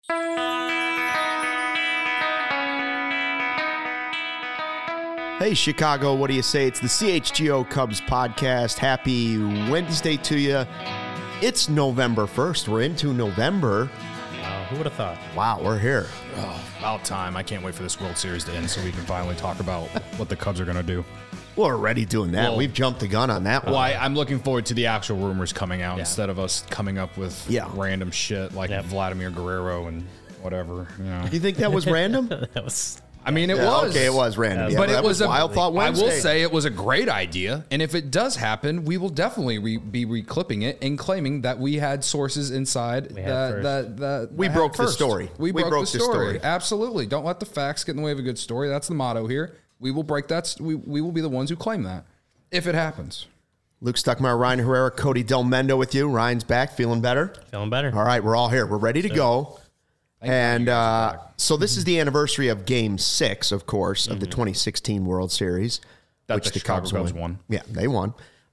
Hey, Chicago, what do you say? It's the CHGO Cubs podcast. Happy Wednesday to you. It's November 1st. We're into November. Who would have thought? Wow, we're here. Oh, about time. I can't wait for this World Series to end so we can finally talk about what the Cubs are going to do. We're already doing that. Well, we've jumped the gun on that one. Well, I'm looking forward to the actual rumors coming out instead of us coming up with random shit like Vladimir Guerrero and whatever. You know. You think that was random? That was... I mean, it was. Okay, it was random. But it was a wild thought Wednesday. I will say it was a great idea. And if it does happen, we will definitely be reclipping it and claiming that we had sources inside that we broke the story. We broke the story. Absolutely. Don't let the facts get in the way of a good story. That's the motto here. We will break that. We will be the ones who claim that if it happens. Luke Stuckmeyer, Ryan Herrera, Cody Del Mendo with you. Ryan's back. Feeling better? Feeling better. All right, we're all here. We're ready to go. And so this is the anniversary of Game 6, of course, of the 2016 World Series, which the Cubs won. Yeah, they won.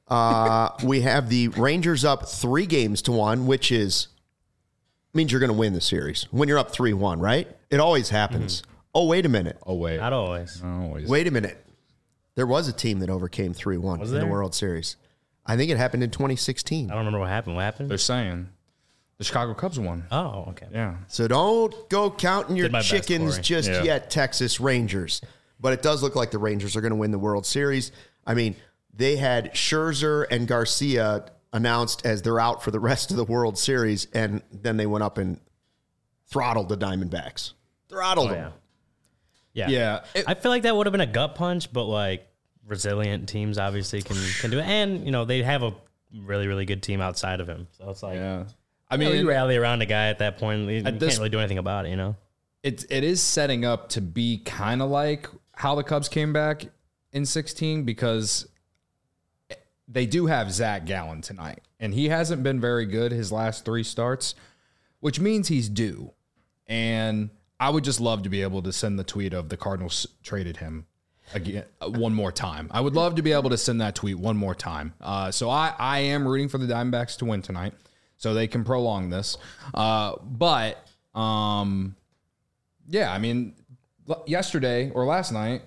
We have the Rangers up 3-1, which means you're going to win the series. When you're up 3-1, right? It always happens. Oh, wait a minute. Oh, wait. Not always. Wait a minute. There was a team that overcame 3-1 in the World Series. I think it happened in 2016. I don't remember what happened. What happened? They're saying the Chicago Cubs won. Oh, okay. Yeah. So don't go counting your chickens just yet, Texas Rangers. But it does look like the Rangers are going to win the World Series. I mean, they had Scherzer and Garcia announced as they're out for the rest of the World Series, and then they went up and throttled the Diamondbacks. Throttled them. Yeah. I feel like that would have been a gut punch, but like resilient teams obviously can do it. And, you know, they have a really, really good team outside of him. So it's like... Yeah. I mean, you rally around a guy at that point. You can't really do anything about it, you know? It is setting up to be kind of like how the Cubs came back in 16 because they do have Zach Gallen tonight. And he hasn't been very good his last 3 starts, which means he's due. And I would just love to be able to send the tweet of the Cardinals traded him again one more time. I would love to be able to send that tweet one more time. So I am rooting for the Diamondbacks to win tonight, so they can prolong this. But I mean, yesterday or last night,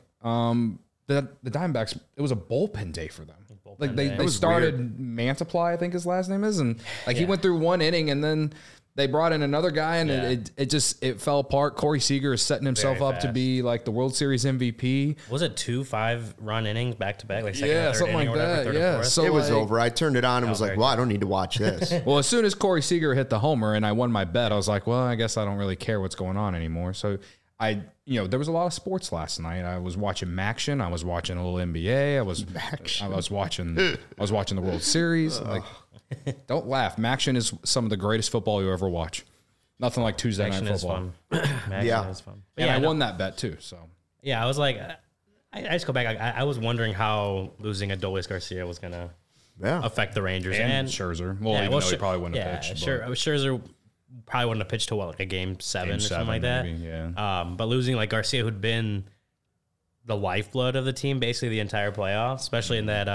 the Diamondbacks, it was a bullpen day for them. Like they started Mantiply, I think his last name is, and he went through 1 inning, and then they brought in another guy, and it fell apart. Corey Seager is setting himself up to be like the World Series MVP. Was it 2 5-run innings back to back, like second, third something inning like or whatever, that. So it was over. I turned it on and was like, well, I don't need to watch this. Well, as soon as Corey Seager hit the homer and I won my bet, I was like, well, I guess I don't really care what's going on anymore. So there was a lot of sports last night. I was watching MACtion. I was watching a little NBA. I was watching the World Series. Don't laugh. MACtion is some of the greatest football you ever watch. Nothing like Tuesday night football. MACtion is fun. And I won that bet too. So I was like, I just go back. I was wondering how losing Adolis Garcia was gonna affect the Rangers and Scherzer. Well, even though he probably wouldn't have pitched. Scherzer probably wouldn't have pitched to like a game 7 or something like that. Maybe, but losing like Garcia, who'd been the lifeblood of the team basically the entire playoffs, especially in that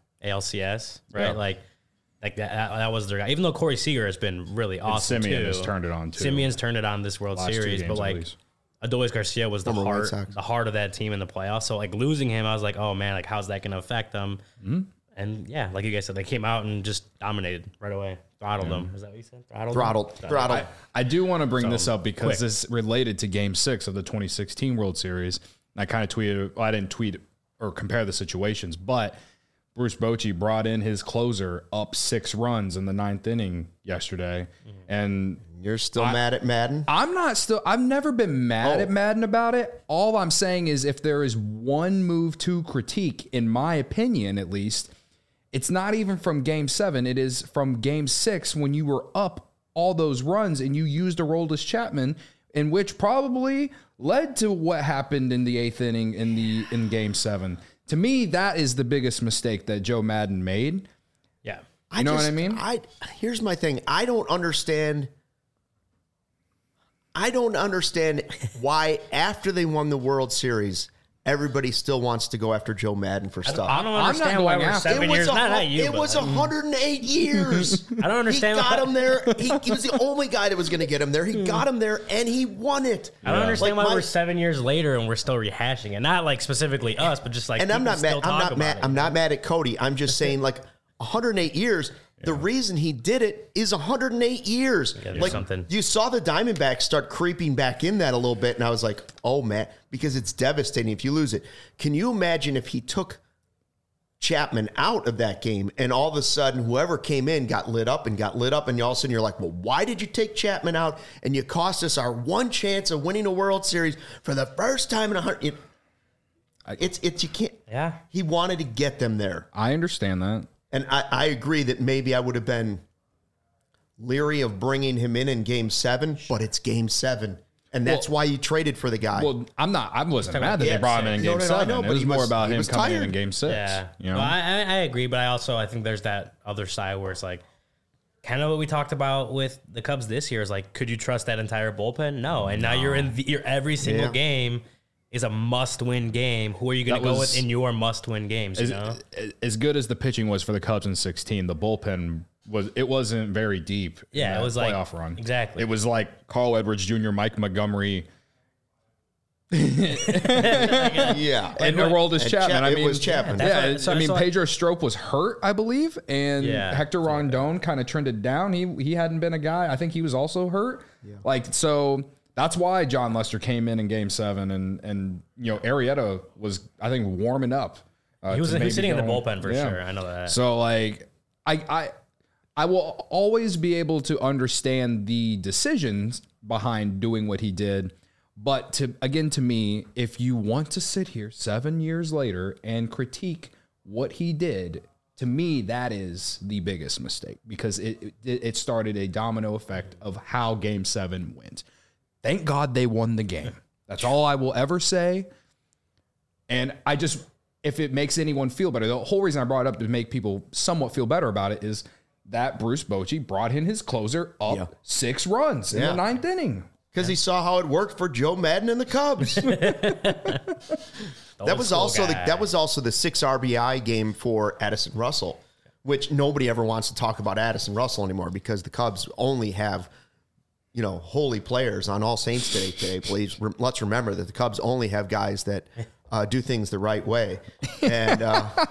ALCS, right? Yeah. Like that was their guy. Even though Corey Seager has been really awesome Simeon has turned it on too. Simeon's turned it on this World Series, but like Adolis Garcia was the heart of that team in the playoffs. So like losing him, I was like, oh man, like how's that going to affect them? Mm-hmm. And like you guys said, they came out and just dominated right away. Throttled them. Is that what you said? Throttled. I do want to bring this up because this is related to Game 6 of the 2016 World Series. And I kind of tweeted, I didn't tweet or compare the situations, but Bruce Bochy brought in his closer up 6 runs in the 9th inning yesterday. Mm-hmm. And you're still mad at Madden? I've never been mad at Madden about it. All I'm saying is if there is one move to critique, in my opinion at least, it's not even from Game 7. It is from Game 6 when you were up all those runs and you used Aroldis Chapman, in which probably led to what happened in the 8th inning in Game 7. To me, that is the biggest mistake that Joe Madden made. Yeah. You know what I mean? Here's my thing. I don't understand why after they won the World Series everybody still wants to go after Joe Madden for stuff. I don't understand why we're 7 years. It was 108 years. I don't understand. He got him there. He was the only guy that was going to get him there. He got him there, and he won it. I don't understand why we're 7 years later and we're still rehashing it. Not like specifically us, but just like. And I'm not mad. I'm not mad at Cody. I'm just saying, like 108 years. The reason he did it is 108 years. Like you saw the Diamondbacks start creeping back in that a little bit, and I was like, "Oh man," because it's devastating if you lose it. Can you imagine if he took Chapman out of that game, and all of a sudden whoever came in got lit up, and all of a sudden you're like, "Well, why did you take Chapman out? And you cost us our one chance of winning a World Series for the first time in 100." It's you can't. Yeah, he wanted to get them there. I understand that. And I agree that maybe I would have been leery of bringing him in Game 7, but it's Game 7. And that's why you traded for the guy. Well, I wasn't mad that they brought him in Game 7. It was more about him coming in Game 6. Yeah. You know? Well, I agree, but I think there's that other side where it's like, kind of what we talked about with the Cubs this year is like, could you trust that entire bullpen? No. And now you're every single game is a must-win game. Who are you going to go with in your must-win games? As good as the pitching was for the Cubs in 2016, the bullpen wasn't very deep. Yeah, it was like playoff run. Exactly. It was like Carl Edwards Jr., Mike Montgomery. Yeah, and Aroldis Chapman. It was Chapman. Pedro Strop was hurt, I believe, and Hector Rondon kind of trended down. He hadn't been a guy. I think he was also hurt. Yeah. So. That's why John Lester came in Game 7, and Arrieta was, I think, warming up. He was sitting in the bullpen for sure. I know that. So like I will always be able to understand the decisions behind doing what he did, but to me, if you want to sit here 7 years later and critique what he did, to me that is the biggest mistake, because it started a domino effect of how Game 7 went. Thank God they won the game. That's all I will ever say. And if it makes anyone feel better, the whole reason I brought it up to make people somewhat feel better about it is that Bruce Bochy brought in his closer up 6 runs in the 9th inning. Because he saw how it worked for Joe Madden and the Cubs. That was also the 6 RBI game for Addison Russell, which nobody ever wants to talk about Addison Russell anymore because the Cubs only have holy players on All Saints Day today. Please let's remember that the Cubs only have guys that do things the right way. And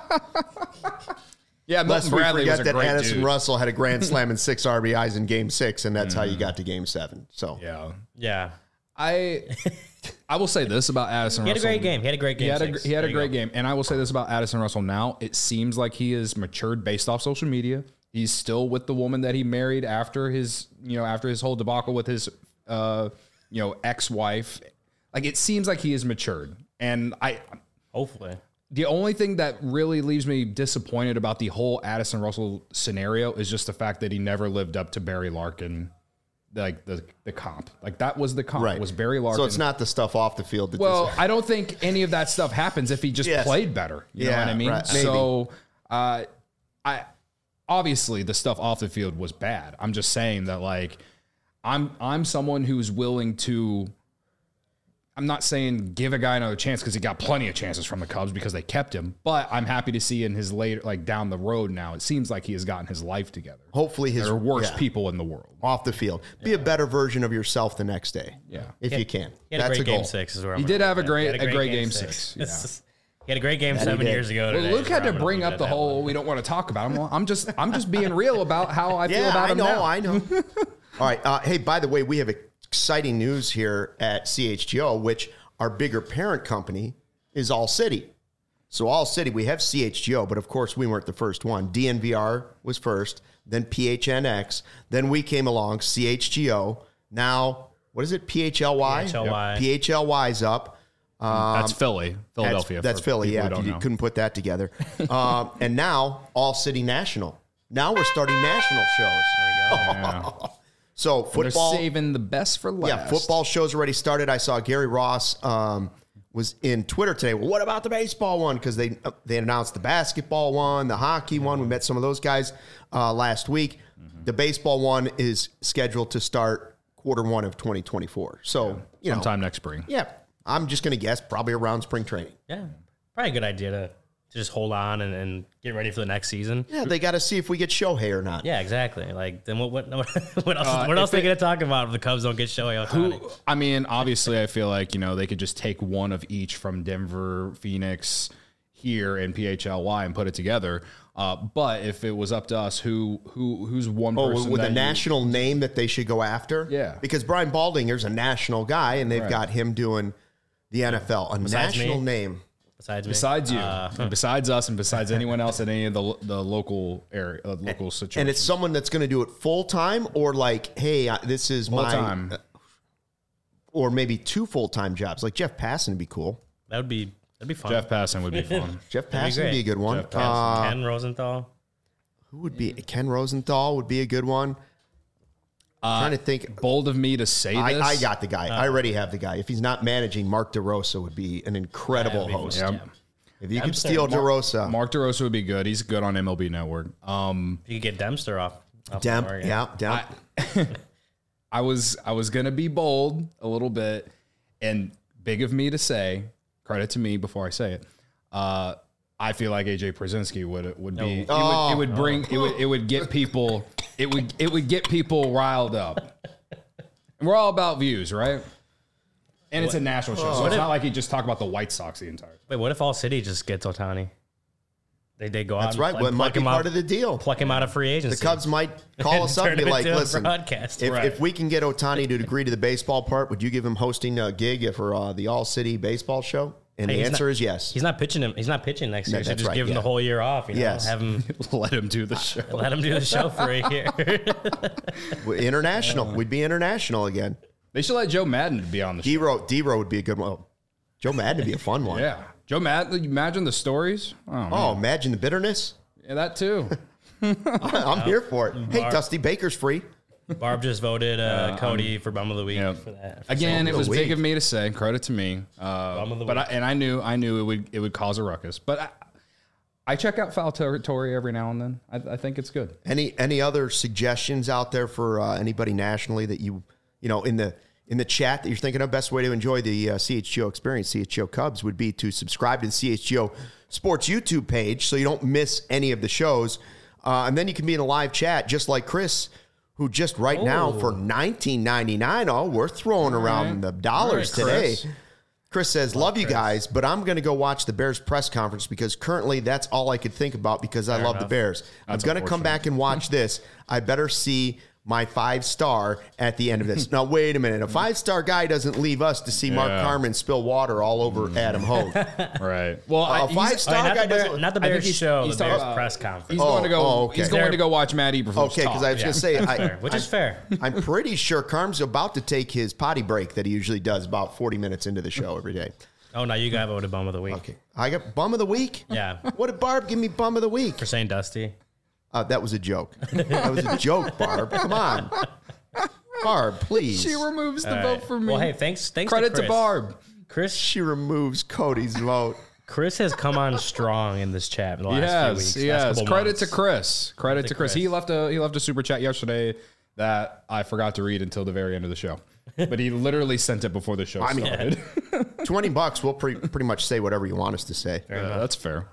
lest we forget that Addison Russell had a grand slam and 6 RBIs in Game 6, and that's how you got to Game 7. So yeah. I will say this about Addison Russell. He had a great game. He had a great game. And I will say this about Addison Russell now. It seems like he is matured based off social media. He's still with the woman that he married after his whole debacle with his, ex-wife. Like, it seems like he is matured. And hopefully, the only thing that really leaves me disappointed about the whole Addison Russell scenario is just the fact that he never lived up to Barry Larkin, like the comp. Like, that was the comp. Right. It was Barry Larkin. So it's not the stuff off the field. I don't think any of that stuff happens if he just played better. You know what I mean? Right. So, obviously, the stuff off the field was bad. I'm just saying that, like, I'm someone who's willing to. I'm not saying give a guy another chance because he got plenty of chances from the Cubs because they kept him. But I'm happy to see in his later, like down the road now, it seems like he has gotten his life together. Hopefully, there are worse people in the world off the field. Be a better version of yourself the next day. Yeah, if you can. That's a Game 6 is where he did have a great Game 6. Yeah. He had a great game 7 years ago. Well, Luke had to bring up the whole we don't want to talk about him. I'm just being real about how I feel about him now. I know. All right. Hey, by the way, we have exciting news here at CHGO, which our bigger parent company is All City. So All City, we have CHGO, but of course we weren't the first one. DNVR was first, then PHNX, then we came along, CHGO. Now, what is it? PHLY? PHLY. PHLY's up. That's Philadelphia. That's Philly, yeah. You couldn't put that together. And now, All City National. Now we're starting national shows. There we go. Yeah. So football. They're saving the best for last. Yeah, football shows already started. I saw Gary Ross was in Twitter today. Well, what about the baseball one? Because they announced the basketball one, the hockey one. We met some of those guys last week. Mm-hmm. The baseball one is scheduled to start Q1 of 2024. So, sometime next spring. Yeah. I'm just going to guess probably around spring training. Yeah, probably a good idea to just hold on and get ready for the next season. Yeah, they got to see if we get Shohei or not. Yeah, exactly. Like, then what else? What else are they going to talk about if the Cubs don't get Shohei Ohtani? I mean, obviously, I feel like they could just take one of each from Denver, Phoenix, here, and PHLY and put it together. But if it was up to us, who's one person with a national name that they should go after? Yeah, because Brian Baldinger's a national guy, and they've got him doing the NFL, a national name. Besides you, and besides us, and besides anyone else in any of the local area, local situation. And it's someone that's going to do it full time, or like, hey, this is full time, or maybe 2 full-time jobs. Like Jeff Passan would be cool. That'd be fun. Jeff Passan would be fun. Jeff Passan would be a good one. Ken Rosenthal. Who would be? Ken Rosenthal would be a good one. Trying to think. Bold of me to say this. I got the guy. I already have the guy. If he's not managing, Mark DeRosa would be an incredible host. Yeah. If you could steal DeRosa. Mark DeRosa would be good. He's good on MLB Network. You could get Dempster off Demp. I was going to be bold a little bit, and big of me to say, credit to me before I say it, I feel like AJ Pierzynski would be. It would get people. It would get people riled up. And we're all about views, right? And it's a national show, so it's not like you just talk about the White Sox the entire time. Wait, what if all city just gets Ohtani? They go out. That's right. Well, it might be part of the deal. Pluck him out of free agency. The Cubs might call us up and be like, "Listen, if we can get Ohtani to agree to the baseball part, would you give him hosting a gig for the All City baseball show?" And the answer is yes. He's not pitching him. He's not pitching next year. So just give him the whole year off. Yes. Have him let him do the show. Let him do the show for a year. International. We'd be international again. They should let Joe Madden be on the show. D-Row would be a good one. Joe Madden would be a fun one. Yeah. Joe Madden, imagine the stories. Oh, imagine the bitterness. Yeah, that too. I'm here for it. Hey, Dusty Baker's free. Barb just voted Cody for Bum of the Week for that. Again, it was big of me to say. Credit to me. Bum of the Week. I knew it would cause a ruckus. But I check out Foul Territory every now and then. I think it's good. Any other suggestions out there for anybody nationally that you know in the chat that you're thinking of? Best way to enjoy the CHGO experience, CHGO Cubs, would be to subscribe to the CHGO Sports YouTube page so you don't miss any of the shows. And then you can be in a live chat just like Chris, who just now for $19.99, we're throwing around the dollars today. Chris says, love you guys, but I'm going to go watch the Bears press conference because currently that's all I could think about because I love the Bears. I'm going to come back and watch this. I better see my 5-star at the end of this. Now, wait a minute. A 5-star guy doesn't leave us to see Mark Carmen spill water all over Adam Hogue. Right. Well, a 5-star guy doesn't. Not the Bears show, the Bears press conference. He's going to go. He's going to go watch Matt Eberflus. Okay, because I was going to say, which is fair. I'm pretty sure Carm's about to take his potty break that he usually does about 40 minutes into the show every day. Oh, no, you got voted Bum of the Week. Okay, I got Bum of the Week. Yeah. What did Barb give me Bum of the Week for saying Dusty? That was a joke. That was a joke, Barb. Come on. Barb, please. She removes the vote for me. Well, hey, thanks Credit to Barb. Chris. She removes Cody's vote. Chris has come on strong in this chat in the last few weeks. Yes. Credit to Chris. Credit to Chris. He left a super chat yesterday that I forgot to read until the very end of the show. But he literally sent it before the show started. $20, we'll pretty much say whatever you want us to say. That's fair.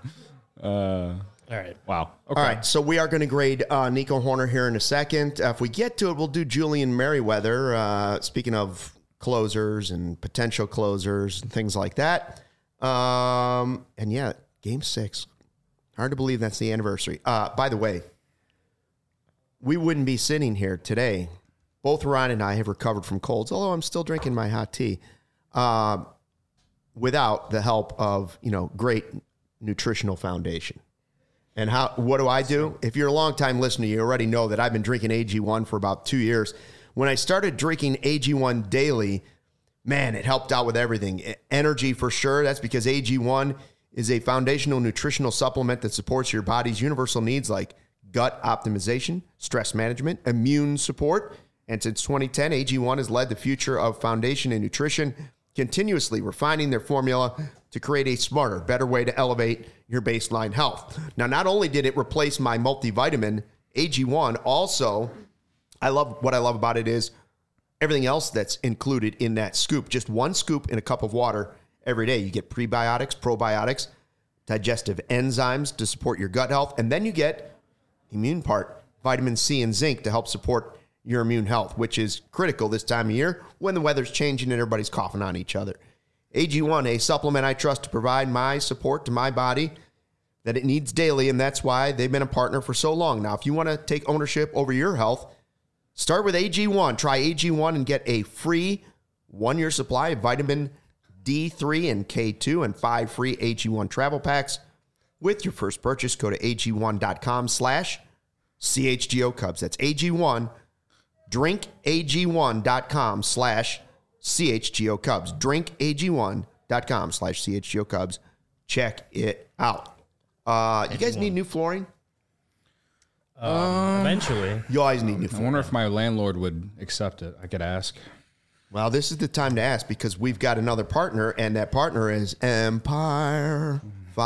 All right. Wow. Okay. All right. So we are going to grade Nico Hoerner here in a second. If we get to it, we'll do Julian Merriweather. Speaking of closers and potential closers and things like that. And yeah, Game 6. Hard to believe that's the anniversary. By the way, we wouldn't be sitting here today. Both Ryan and I have recovered from colds, although I'm still drinking my hot tea, without the help of, great nutritional foundation. And what do? If you're a longtime listener, you already know that I've been drinking AG1 for about 2 years. When I started drinking AG1 daily, man, it helped out with everything. Energy for sure. That's because AG1 is a foundational nutritional supplement that supports your body's universal needs like gut optimization, stress management, immune support. And since 2010, AG1 has led the future of foundation and nutrition, continuously refining their formula to create a smarter, better way to elevate your baseline health. Now, not only did it replace my multivitamin, AG1 also, what I love about it is everything else that's included in that scoop. Just one scoop in a cup of water every day. You get prebiotics, probiotics, digestive enzymes to support your gut health, and then you get the immune part, vitamin C and zinc to help support your immune health, which is critical this time of year when the weather's changing and everybody's coughing on each other. AG1, a supplement I trust to provide my support to my body that it needs daily, and that's why they've been a partner for so long. Now, if you want to take ownership over your health, start with AG1. Try AG1 and get a free 1-year supply of vitamin D3 and K2 and 5 free AG1 travel packs with your first purchase. Go to AG1.com/CHGO Cubs. That's AG1. drinkag1.com/CHGO Cubs. drinkag1.com/CHGO Cubs. Check it out. You guys need new flooring? Eventually. You always need new flooring. I wonder if my landlord would accept it. I could ask. Well, this is the time to ask because we've got another partner, and that partner is Empire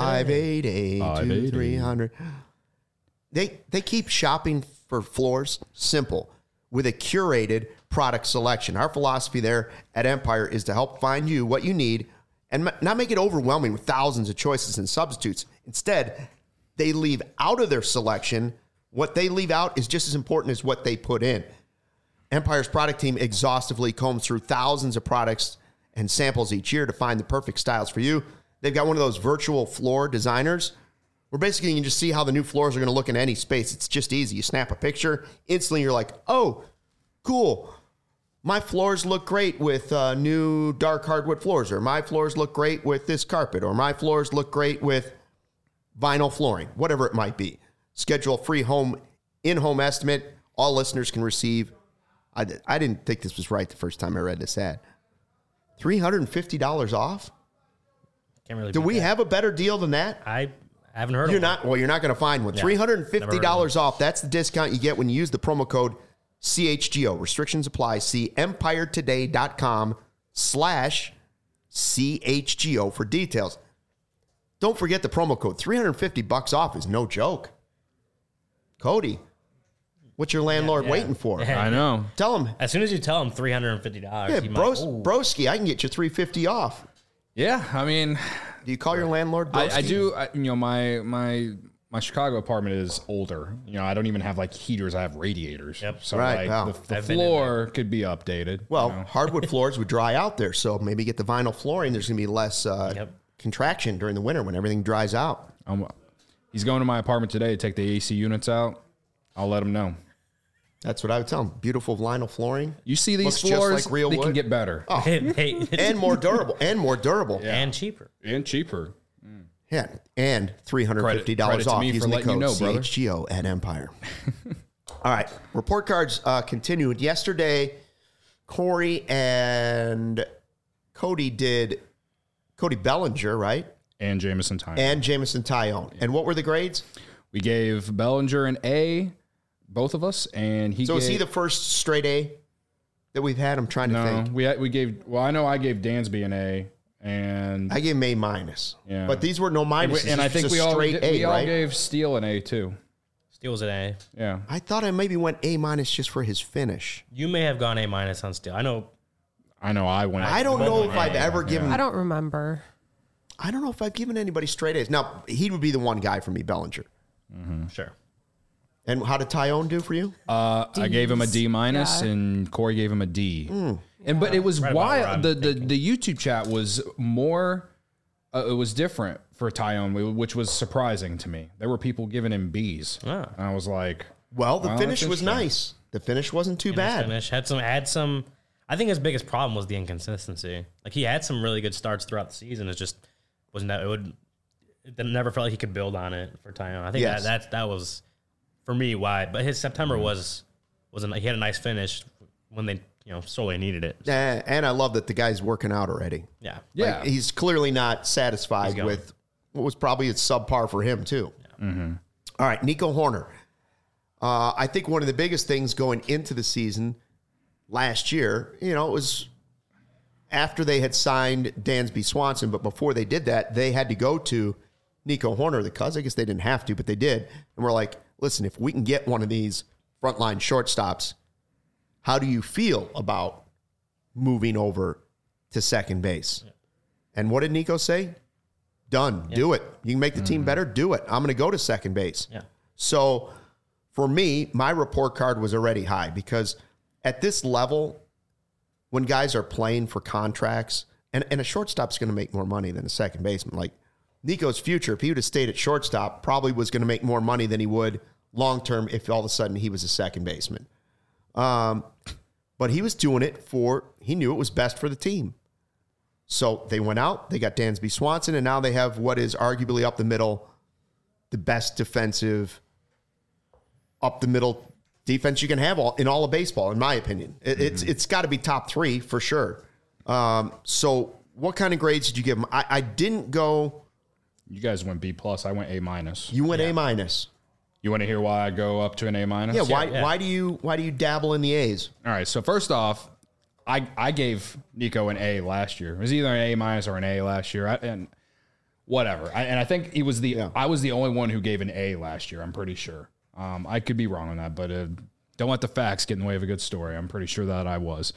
588-2300. They keep shopping for floors simple with a curated product selection. Our philosophy there at Empire is to help find you what you need and not make it overwhelming with thousands of choices and substitutes. Instead, they leave out of their selection. What they leave out is just as important as what they put in. Empire's product team exhaustively combs through thousands of products and samples each year to find the perfect styles for you. They've got one of those virtual floor designers where basically you can just see how the new floors are going to look in any space. It's just easy. You snap a picture, instantly you're like, oh, cool. My floors look great with new dark hardwood floors, or my floors look great with this carpet, or my floors look great with vinyl flooring, whatever it might be. Schedule a free in-home estimate. All listeners can receive. I didn't think this was right the first time I read this ad. $350 off? Can't really. Do we have a better deal than that? I haven't heard of it. Well, you're not going to find one. Yeah, $350 off. That's the discount you get when you use the promo code CHGO. Restrictions apply. See empiretoday.com/CHGO for details. Don't forget the promo code. $350 off is no joke. Cody, what's your landlord waiting for? Yeah. I know. Tell him. As soon as you tell him $350, yeah, broski, I can get you $350 off. Yeah, I mean, do you call your landlord broski? I do. My Chicago apartment is older. I don't even have like heaters. I have radiators. Yep. So right, the floor could be updated. Well, hardwood floors would dry out there, so maybe get the vinyl flooring. There's going to be less contraction during the winter when everything dries out. He's going to my apartment today to take the AC units out. I'll let him know. That's what I would tell him. Beautiful vinyl flooring. You see these floors, just like real they wood. Can get better. Oh. And more durable. Yeah. And cheaper. Yeah, and $350 off using the code CHGO at Empire. All right, report cards continued. Yesterday, Corey and Cody did Cody Bellinger, right? And Jameson Taillon. And what were the grades? We gave Bellinger an A, both of us, and he. So is he the first straight A that we've had? I'm trying to think. We gave. Well, I know I gave Dansby an A, and I gave him A minus. Yeah, but these were no minuses. And I think we all right? gave Steele an A too. Steele was an A. Yeah, I thought I maybe went A minus just for his finish. You may have gone A minus on Steele. I know. I went. I don't know if I've ever given. I don't remember. I don't know if I've given anybody straight A's. Now he would be the one guy for me, Bellinger. Mm-hmm. Sure. And how did Taillon do for you? I gave him a D minus, and Corey gave him a D. But it was wild. The YouTube chat was more. It was different for Taillon, which was surprising to me. There were people giving him B's. And I was like, "Well, the finish was nice. The finish wasn't too bad. Finish had some. I think his biggest problem was the inconsistency. Like he had some really good starts throughout the season. It just wasn't that. It never felt like he could build on it for Taillon. I think that was for me why. But his September wasn't. He had a nice finish when they sorely needed it. And I love that the guy's working out already. Yeah. Like, he's clearly not satisfied with what was probably a subpar for him too. Yeah. Mm-hmm. All right, Nico Hoerner. I think one of the biggest things going into the season last year, it was after they had signed Dansby Swanson, but before they did that, they had to go to Nico Hoerner, the Cubs. I guess they didn't have to, but they did. And we're like, listen, if we can get one of these frontline shortstops, How do you feel about moving over to second base? Yeah. And what did Nico say? Done. Yeah. Do it. You can make the team better. Do it. I'm going to go to second base. Yeah. So for me, my report card was already high because at this level, when guys are playing for contracts, and a shortstop's going to make more money than a second baseman. Like Nico's future, if he would have stayed at shortstop, probably was going to make more money than he would long-term if all of a sudden he was a second baseman. But he was doing it he knew it was best for the team. So they went out, they got Dansby Swanson, and now they have what is arguably up the middle, the best defensive up the middle defense you can have in all of baseball, in my opinion. It's got to be top 3 for sure. So what kind of grades did you give him? I didn't go. You guys went B+. I went A-. You went A-. You want to hear why I go up to an A-? Yeah. Why do you dabble in the A's? All right. So first off, I gave Nico an A last year. It was either an A- or an A last year, and whatever. I think he was I was the only one who gave an A last year. I'm pretty sure. I could be wrong on that, but don't let the facts get in the way of a good story. I'm pretty sure that I was.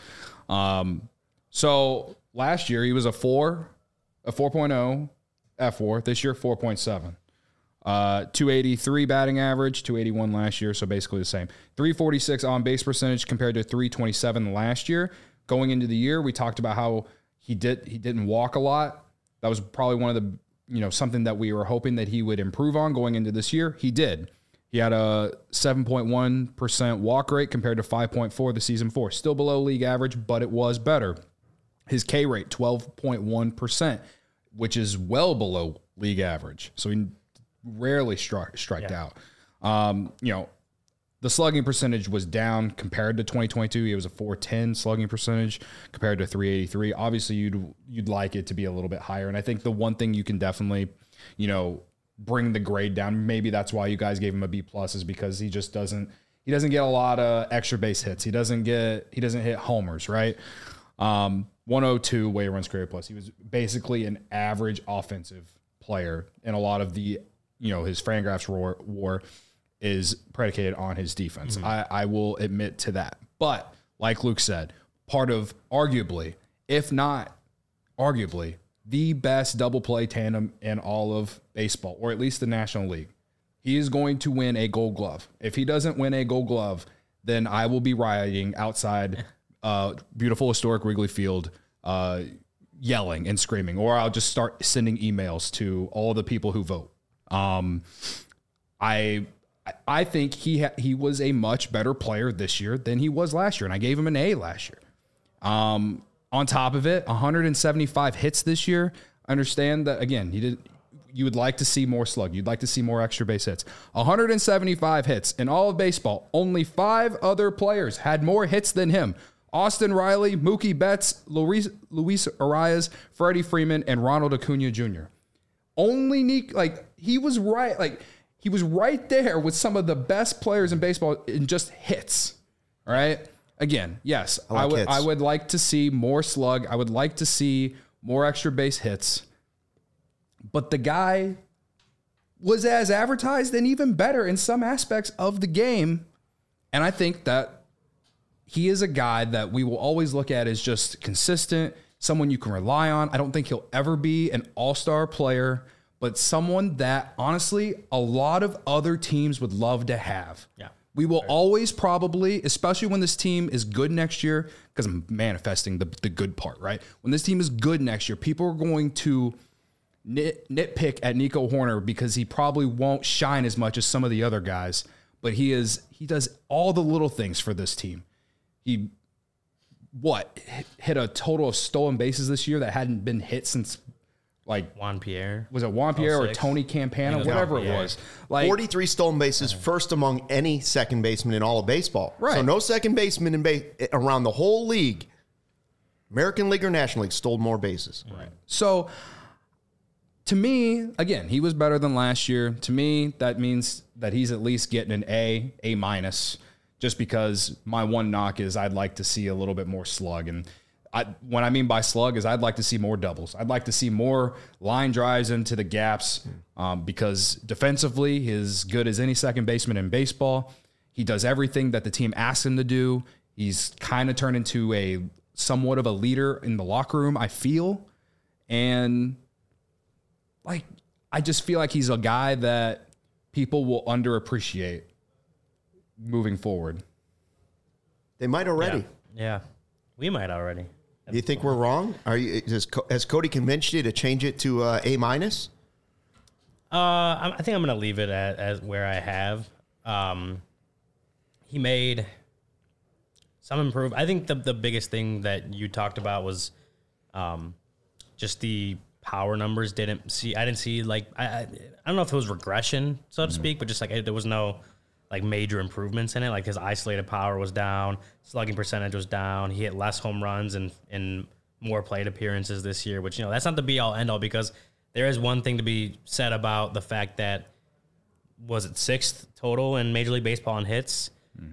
So last year he was a 4.0 F4. This year 4.7. 283 batting average, 281 last year, so basically the same. 346 on base percentage compared to 327 last year. Going into the year, we talked about how he didn't walk a lot. That was probably one of the, something that we were hoping that he would improve on going into this year. He did. He had a 7.1% walk rate compared to 5.4 the season before. Still below league average, but it was better. His K rate, 12.1%, which is well below league average. So he rarely striked out. The slugging percentage was down compared to 2022. It was a 410 slugging percentage compared to 383. Obviously, you'd like it to be a little bit higher. And I think the one thing you can definitely, bring the grade down. Maybe that's why you guys gave him a B+ is because he just doesn't get a lot of extra base hits. He doesn't hit homers, right? 102 weighted runs created plus. He was basically an average offensive player, and a lot of the his Fangraphs war is predicated on his defense. I will admit to that. But like Luke said, part of arguably, if not arguably, the best double play tandem in all of baseball, or at least the National League. He is going to win a Gold Glove. If he doesn't win a Gold Glove, then I will be rioting outside beautiful historic Wrigley Field, yelling and screaming, or I'll just start sending emails to all the people who vote. I think he was a much better player this year than he was last year, and I gave him an A last year. On top of it, 175 hits this year. Understand that, again, you would like to see more slug. You'd like to see more extra base hits. 175 hits in all of baseball. Only 5 other players had more hits than him. Austin Riley, Mookie Betts, Luis Arias, Freddie Freeman, and Ronald Acuna Jr. Only he was right there with some of the best players in baseball in just hits. All right. Again, yes, I would like to see more slug. I would like to see more extra base hits. But the guy was as advertised and even better in some aspects of the game. And I think that he is a guy that we will always look at as just consistent, someone you can rely on. I don't think he'll ever be an all-star player, but someone that, honestly, a lot of other teams would love to have. Yeah. We will always probably, especially when this team is good next year, because I'm manifesting the good part, right? When this team is good next year, people are going to nitpick at Nico Hoerner because he probably won't shine as much as some of the other guys, but he does all the little things for this team. He hit a total of stolen bases this year that hadn't been hit since Juan Pierre. Was it Juan Pierre or Tony Campana? Whatever it was. 43 stolen bases, first among any second baseman in all of baseball. Right. So no second baseman around the whole league, American League or National League, stole more bases. Right. So to me, again, he was better than last year. To me, that means that he's at least getting an A-, A-, just because my one knock is I'd like to see a little bit more slug. And what I mean by slug is I'd like to see more doubles. I'd like to see more line drives into the gaps because defensively, he's as good as any second baseman in baseball. He does everything that the team asks him to do. He's kind of turned into a somewhat of a leader in the locker room, I feel. And like, I just feel like he's a guy that people will underappreciate moving forward. They might already. Yeah. We might already. Do you think we're wrong? Has Cody convinced you to change it to A-? I think I'm going to leave it as where I have. He made some improvement. I think the biggest thing that you talked about was just the power numbers. I didn't see like I don't know if it was regression, so to speak, but just like there was no like major improvements in it. Like his isolated power was down, slugging percentage was down. He hit less home runs and more plate appearances this year, which, that's not the be all end all, because there is one thing to be said about the fact that was it 6th total in Major League Baseball in hits.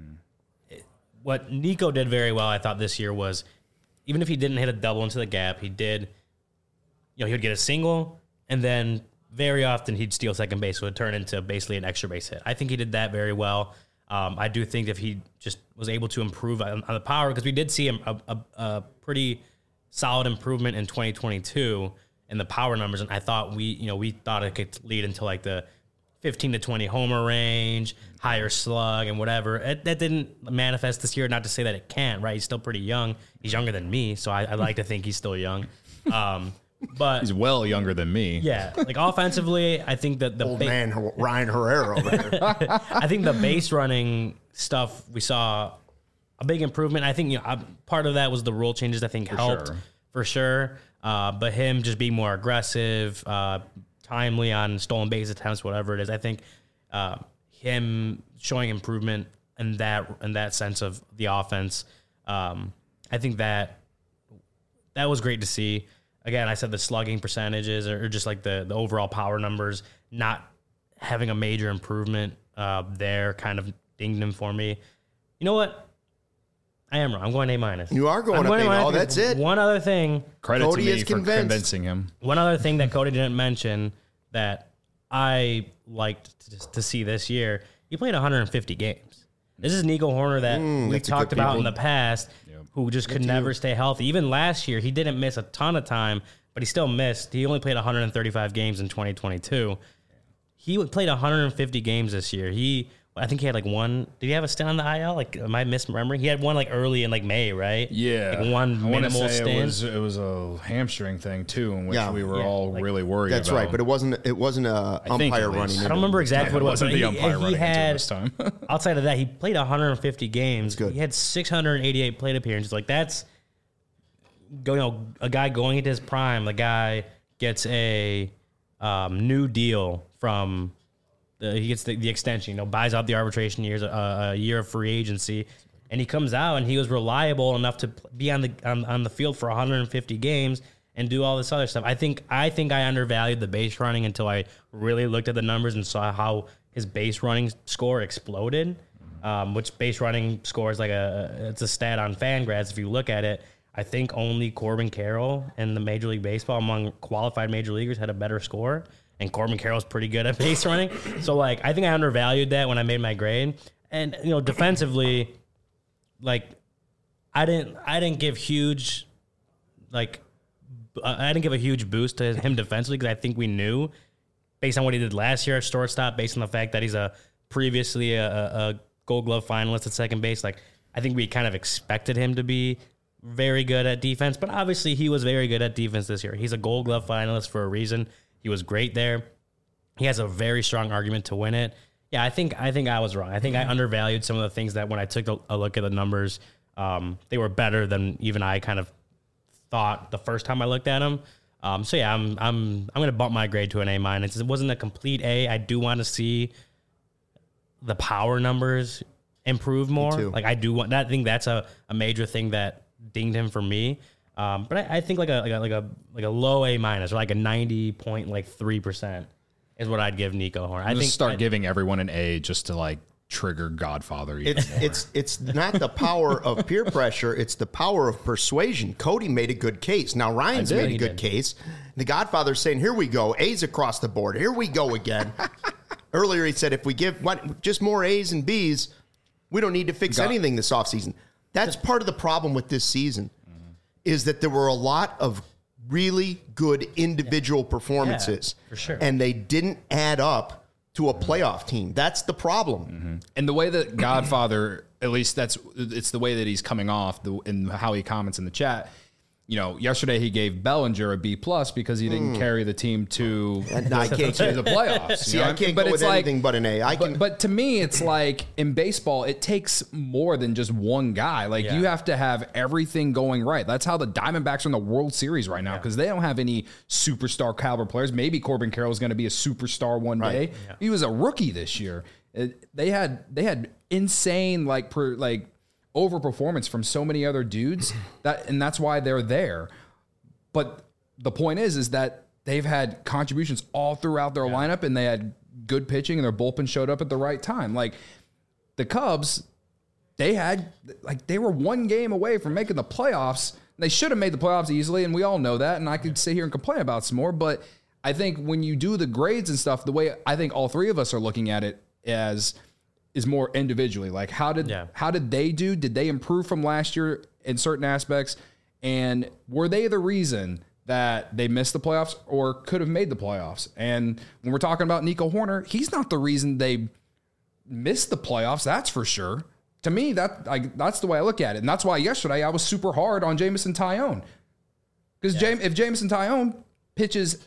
What Nico did very well, I thought, this year was, even if he didn't hit a double into the gap, he did, he would get a single, and then very often he'd steal second base, so it would turn into basically an extra base hit. I think he did that very well. I do think if he just was able to improve on the power, because we did see a pretty solid improvement in 2022 in the power numbers, and I thought we thought it could lead into like the 15 to 20 homer range, higher slug, and whatever. That didn't manifest this year. Not to say that it can't, right? He's still pretty young. He's younger than me, so I like to think he's still young. But he's well younger than me. Yeah, like offensively, I think that the old man Ryan Herrera over there. I think the base running stuff, we saw a big improvement. I think part of that was the rule changes. I think helped for sure. But him just being more aggressive, timely on stolen base attempts, whatever it is. I think him showing improvement in that sense of the offense. I think that was great to see. Again, I said the slugging percentages or just like the overall power numbers not having a major improvement there kind of dinged him for me. You know what? I am wrong. I'm going A-. You are going A-. Oh, that's it. One other thing. Credit Cody to me for convincing him. One other thing that Cody didn't mention that I liked to see this year, he played 150 games. This is Nico Hoerner that we talked about in the past, who just could never stay healthy. Even last year, he didn't miss a ton of time, but he still missed. He only played 135 games in 2022. He played 150 games this year. I think he had like one. Did he have a stint on the IL? Like, am I misremembering? He had one like early in like May, right? Yeah, like one minimal stint. It was a hamstring thing too, in which we were all really worried. That's about. Right, but it wasn't a umpire running. I don't remember exactly what it was. Wasn't the umpire running into this time. Outside of that, he played 150 games. He had 688 plate appearances. Like that's, a guy going into his prime. The guy gets a new deal from. He gets the extension, buys out the arbitration years, a year of free agency, and he comes out and he was reliable enough to be on the field for 150 games and do all this other stuff. I think I undervalued the base running until I really looked at the numbers and saw how his base running score exploded. Which base running score is it's a stat on Fangraphs. If you look at it, I think only Corbin Carroll in the Major League Baseball among qualified major leaguers had a better score. And Corbin Carroll's pretty good at base running. So, I think I undervalued that when I made my grade. And, defensively, I didn't give huge, I didn't give a huge boost to him defensively because I think we knew, based on what he did last year at shortstop, based on the fact that he's previously a Gold Glove finalist at second base, I think we kind of expected him to be very good at defense. But obviously, he was very good at defense this year. He's a Gold Glove finalist for a reason. He was great there. He has a very strong argument to win it. Yeah, I think I was wrong. I think I undervalued some of the things that when I took a look at the numbers, they were better than even I kind of thought the first time I looked at them. So yeah, I'm going to bump my grade to an A-. It wasn't a complete A. I do want to see the power numbers improve more. I do want that. I think that's a major thing that dinged him for me. But I think like a low A- or like a 90.3% is what I'd give Nico Hoerner. I think start giving everyone an A just to trigger Godfather. It's not the power of peer pressure; it's the power of persuasion. Cody made a good case. Now Ryan's made a good case. The Godfather's saying, "Here we go, A's across the board. Here we go again." Earlier he said, "If we give just more A's and B's, we don't need to fix anything this offseason." That's part of the problem with this season, is that there were a lot of really good individual performances. For sure. And they didn't add up to a playoff team. That's the problem. And the way that Godfather, at least it's the way that he's coming off and how he comments in the chat. Yesterday he gave Bellinger a B+ because he didn't carry the team to the playoffs. See, I can't go with anything but an A. But to me, it's like in baseball, it takes more than just one guy. You have to have everything going right. That's how the Diamondbacks are in the World Series right now, because they don't have any superstar caliber players. Maybe Corbin Carroll is going to be a superstar one day. Yeah. He was a rookie this year. They had insane overperformance from so many other dudes and that's why they're there. But the point is that they've had contributions all throughout their lineup, and they had good pitching, and their bullpen showed up at the right time. Like the Cubs, they were one game away from making the playoffs. They should have made the playoffs easily, and we all know that. And I could sit here and complain about some more, but I think when you do the grades and stuff, the way I think all three of us are looking at it is more individually. Like how did they do? Did they improve from last year in certain aspects? And were they the reason that they missed the playoffs or could have made the playoffs? And when we're talking about Nico Hoerner, he's not the reason they missed the playoffs. That's for sure. To me, that's the way I look at it. And that's why yesterday I was super hard on Jameson Taillon. Because if Jameson Taillon pitches,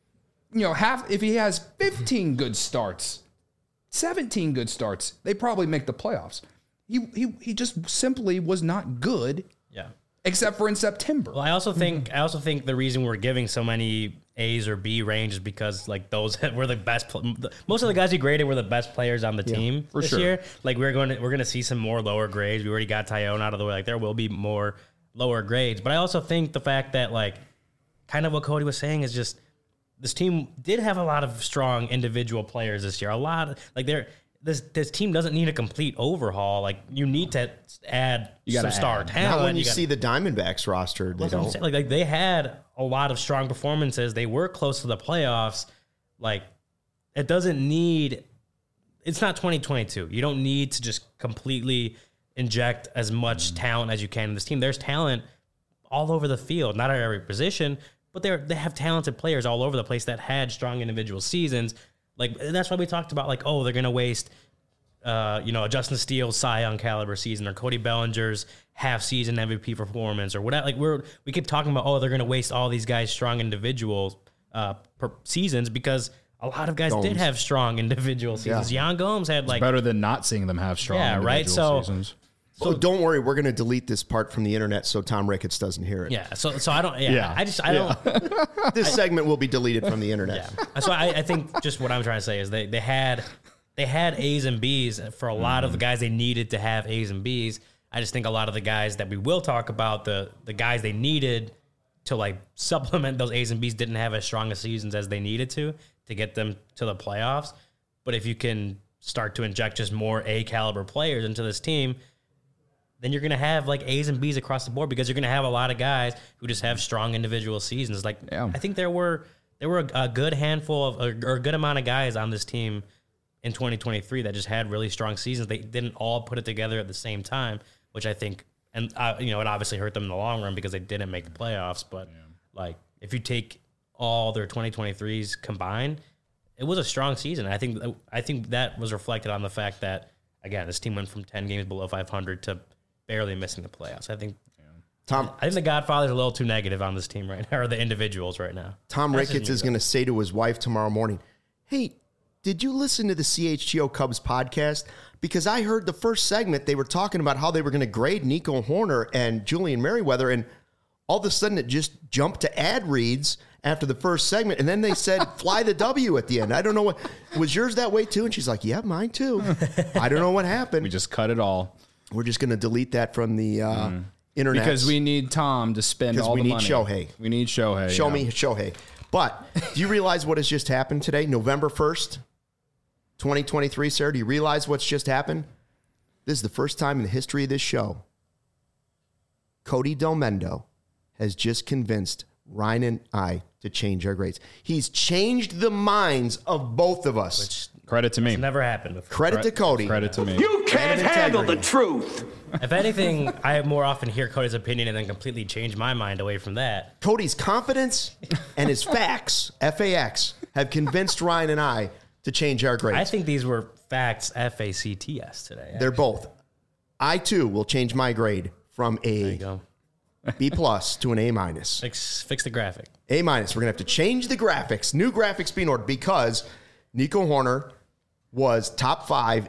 if he has 15 good starts, 17 good starts, they probably make the playoffs. He just simply was not good. Yeah. Except for in September. Well, I also think the reason we're giving so many A's or B range is because those were the best. Most of the guys we graded were the best players on the team this year. We're going to see some more lower grades. We already got Taillon out of the way. There will be more lower grades. But I also think the fact that kind of what Cody was saying is just, this team did have a lot of strong individual players this year. A lot of this team doesn't need a complete overhaul. You need to add some star talent. Not when you see the Diamondbacks roster, they don't. They had a lot of strong performances. They were close to the playoffs. It doesn't need. It's not 2022. You don't need to just completely inject as much talent as you can in this team. There's talent all over the field, not at every position. But they have talented players all over the place that had strong individual seasons. That's why we talked about they're going to waste, a Justin Steele Cy Young caliber season, or Cody Bellinger's half season MVP performance, or whatever. We keep talking about they're going to waste all these guys' strong individual seasons, because a lot of guys did have strong individual seasons. Yan Gomes had it's better than not seeing them have strong individual seasons. So don't worry, we're going to delete this part from the internet so Tom Ricketts doesn't hear it. Yeah. So I don't. Yeah. I don't. This segment will be deleted from the internet. Yeah. So I think just what I'm trying to say is they had A's and B's for a lot of the guys they needed to have A's and B's. I just think a lot of the guys that we will talk about, the guys they needed to supplement those A's and B's, didn't have as strong a seasons as they needed to get them to the playoffs. But if you can start to inject just more A caliber players into this team, then you're going to have A's and B's across the board, because you're going to have a lot of guys who just have strong individual seasons. I think there were a good handful of, or a good amount of guys on this team in 2023 that just had really strong seasons. They didn't all put it together at the same time, which I think, and it obviously hurt them in the long run because they didn't make the playoffs. But if you take all their 2023s combined, it was a strong season. I think that was reflected on the fact that, again, this team went from 10 games below 500 to barely missing the playoffs. I think the Godfather's a little too negative on this team right now, or the individuals right now. Tom Ricketts is going to say to his wife tomorrow morning, "Hey, did you listen to the CHGO Cubs podcast? Because I heard the first segment, they were talking about how they were going to grade Nico Hoerner and Julian Merryweather, and all of a sudden it just jumped to ad reads after the first segment, and then they said fly the W at the end. I don't know what, was yours that way too?" And she's like, "Yeah, mine too." I don't know what happened. We just cut it all. We're just going to delete that from the internet. Because we need Tom to spend all the money. Because we need Shohei. We need Shohei. Show me Shohei. But do you realize what has just happened today? November 1st, 2023, Sarah? Do you realize what's just happened? This is the first time in the history of this show Cody Delmendo has just convinced Ryan and I to change our grades. He's changed the minds of both of us. Credit to me. It's never happened before. Credit to Cody. Credit to me. You can't handle the truth. If anything, I more often hear Cody's opinion and then completely change my mind away from that. Cody's confidence and his facts, FAX, have convinced Ryan and I to change our grades. I think these were facts, FACTS today. Actually. They're both. I, too, will change my grade from a B+ to an A-. Fix the graphic. A-. We're going to have to change the graphics. New graphics being ordered because Nico Hoerner was top 5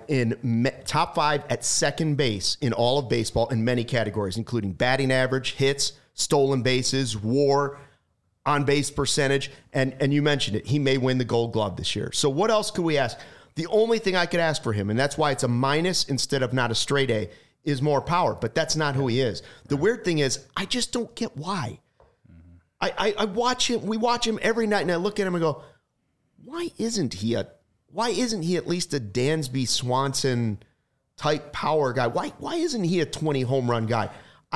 at second base in all of baseball in many categories, including batting average, hits, stolen bases, WAR, on-base percentage, and you mentioned it. He may win the Gold Glove this year. So what else could we ask? The only thing I could ask for him, and that's why it's a minus instead of not a straight A, is more power. But that's not who he is. The weird thing is, I just don't get why. I watch him. We watch him every night, and I look at him and go, why isn't he at least a Dansby Swanson type power guy? Why isn't he a 20 home run guy?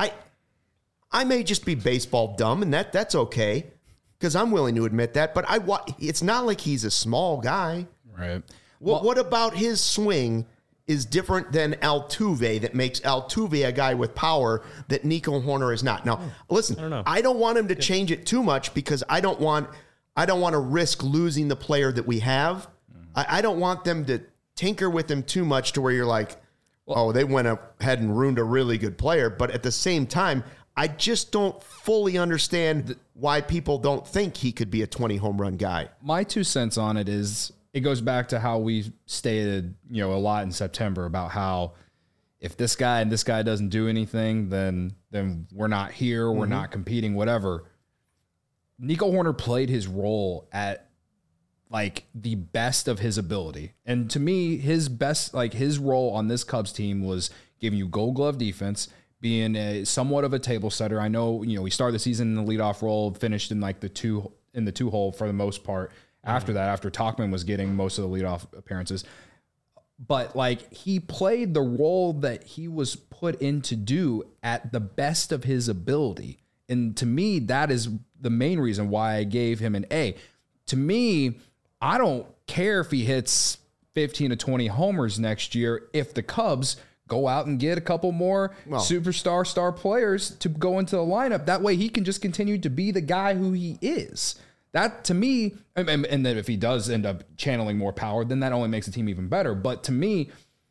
I may just be baseball dumb, and that's okay, because I'm willing to admit that. But it's not like he's a small guy. Right. What about his swing is different than Altuve that makes Altuve a guy with power that Nico Hoerner is not? Now, listen, I don't want him to change it too much because I don't want to risk losing the player that we have. I don't want them to tinker with him too much to where you're like, oh, they went ahead and ruined a really good player. But at the same time, I just don't fully understand why people don't think he could be a 20 home run guy. My 2 cents on it is it goes back to how we stated, a lot in September about how if this guy and this guy doesn't do anything, then we're not here, we're not competing, whatever. Nico Hoerner played his role at like the best of his ability. And to me, his best, like his role on this Cubs team was giving you Gold Glove defense, being somewhat of a table setter. I know, we started the season in the leadoff role, finished in like the two hole for the most part. After that, after Tauchman was getting most of the leadoff appearances. But like he played the role that he was put in to do at the best of his ability. And to me, that is the main reason why I gave him an A. To me, I don't care if he hits 15 to 20 homers next year if the Cubs go out and get a couple more superstar star players to go into the lineup. That way he can just continue to be the guy who he is. That, to me, and then if he does end up channeling more power, then that only makes the team even better. But to me,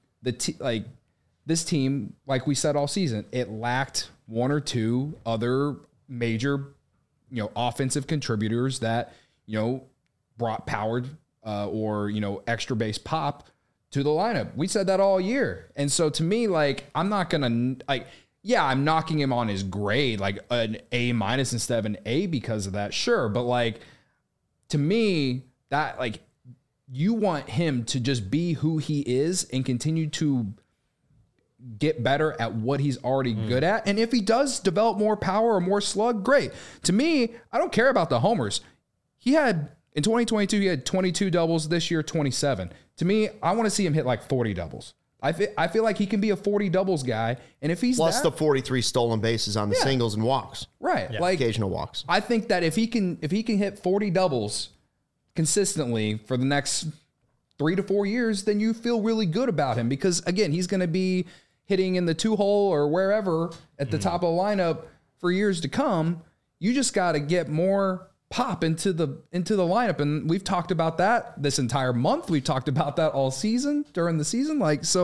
this team, like we said all season, it lacked one or two other major, offensive contributors that, brought power or extra base pop to the lineup. We said that all year. And so to me, I'm not going to I'm knocking him on his grade, like an A- instead of an A because of that. Sure. But to me, that you want him to just be who he is and continue to get better at what he's already good at. And if he does develop more power or more slug, great. To me, I don't care about the homers. In 2022, he had 22 doubles. This year, 27. To me, I want to see him hit 40 doubles. I feel like he can be a 40 doubles guy, and if he's plus the 43 stolen bases on the singles and walks, right? Yeah. Occasional walks. I think that if he can hit 40 doubles consistently for the next 3 to 4 years, then you feel really good about him because again, he's going to be hitting in the 2-hole or wherever at the top of the lineup for years to come. You just got to get more pop into the lineup. And we've talked about that this entire month. We've talked about that all season during the season.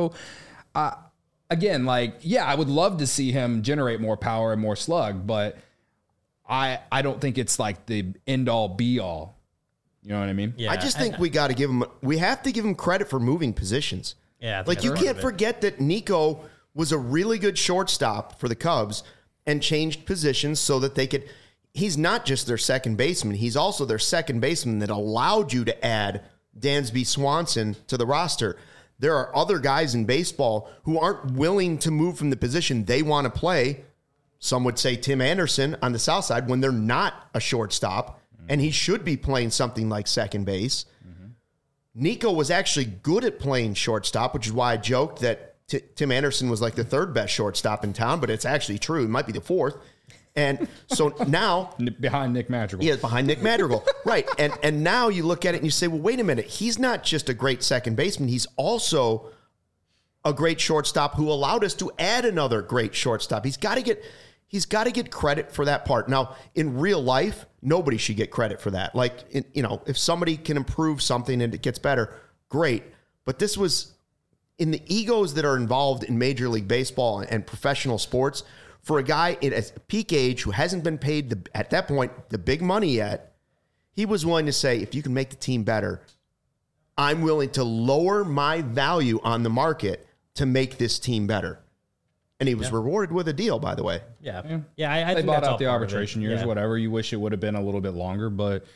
Again, I would love to see him generate more power and more slug, but I don't think it's the end all be all. You know what I mean? Yeah. I just think we have to give him credit for moving positions. Yeah. You can't forget that Nico was a really good shortstop for the Cubs and changed positions so that they could. He's not just their second baseman. He's also their second baseman that allowed you to add Dansby Swanson to the roster. There are other guys in baseball who aren't willing to move from the position they want to play. Some would say Tim Anderson on the south side when they're not a shortstop, and he should be playing something like second base. Nico was actually good at playing shortstop, which is why I joked that Tim Anderson was the third best shortstop in town, but it's actually true. It might be the fourth. And so now behind Nick Madrigal. Yeah, behind Nick Madrigal. Right. And now you look at it and you say, well, wait a minute. He's not just a great second baseman. He's also a great shortstop who allowed us to add another great shortstop. He's got to get credit for that part. Now, in real life, nobody should get credit for that. Like, if somebody can improve something and it gets better, great. But this was in the egos that are involved in Major League Baseball and professional sports. For a guy at a peak age who hasn't been paid, at that point, the big money yet, he was willing to say, if you can make the team better, I'm willing to lower my value on the market to make this team better. And he was rewarded with a deal, by the way. Yeah. I think bought out the arbitration years, whatever. You wish it would have been a little bit longer, but,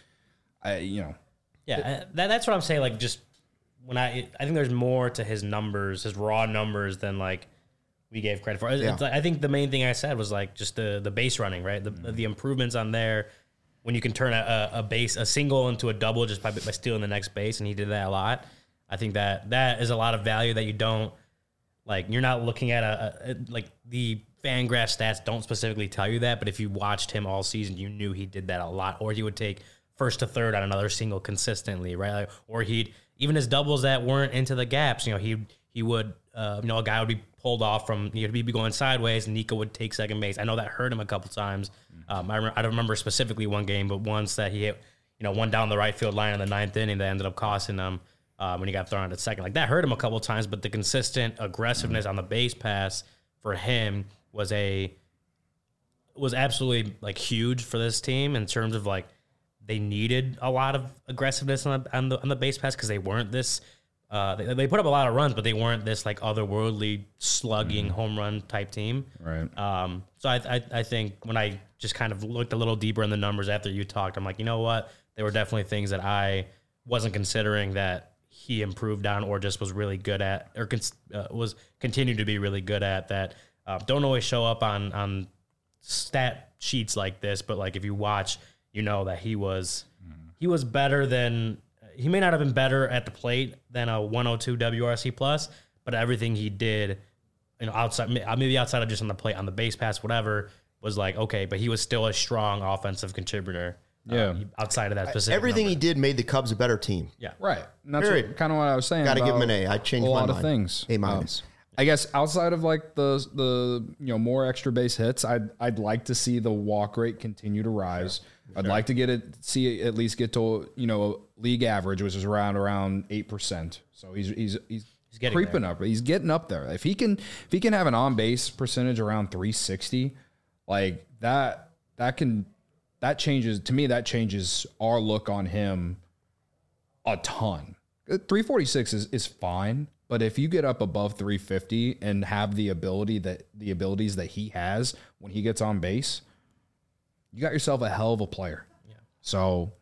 Yeah, that's what I'm saying. Like, just when I think there's more to his numbers, his raw numbers, than like we gave credit for. I think the main thing I said was like just the base running, right? The improvements on there when you can turn a single into a double just by stealing the next base, and he did that a lot. I think that is a lot of value that you don't like. You're not looking at like the Fangraphs stats don't specifically tell you that, but if you watched him all season, you knew he did that a lot, or he would take first to third on another single consistently, right? Like, or even his doubles that weren't into the gaps, he would a guy would be pulled off from, he'd be going sideways, and Nico would take second base. I know that hurt him a couple times. I don't remember specifically one game, but once that he hit, one down the right field line in the ninth inning that ended up costing him when he got thrown out at second. Like, that hurt him a couple times, but the consistent aggressiveness on the base pass for him was absolutely like huge for this team in terms of like they needed a lot of aggressiveness on the base pass because they weren't this. They put up a lot of runs, but they weren't this like otherworldly slugging home run type team. Right. So I think when I just kind of looked a little deeper in the numbers after you talked, I'm like, you know what? There were definitely things that I wasn't considering that he improved on or just was really good at, or was continued to be really good at, that don't always show up on stat sheets like this. But like if you watch, that he was better than. He may not have been better at the plate than a 102 WRC plus, but everything he did, outside, maybe outside of just on the plate, on the base pass, whatever, was like, okay, but he was still a strong offensive contributor. Outside of that specific everything number. He did made the Cubs a better team. Yeah. Right. And that's kind of what I was saying. Got to give him an A. I changed my mind. A lot of things. A minus. I guess outside of like the more extra base hits, I'd like to see the walk rate continue to rise. Sure. I'd like to at least get to league average, which is around 8%. So he's creeping up. He's getting up there. If he can have an on base percentage around 360, like that changes, to me, that changes our look on him a ton. 346 is fine. But if you get up above 350 and have the abilities that he has when he gets on base, you got yourself a hell of a player. Yeah. So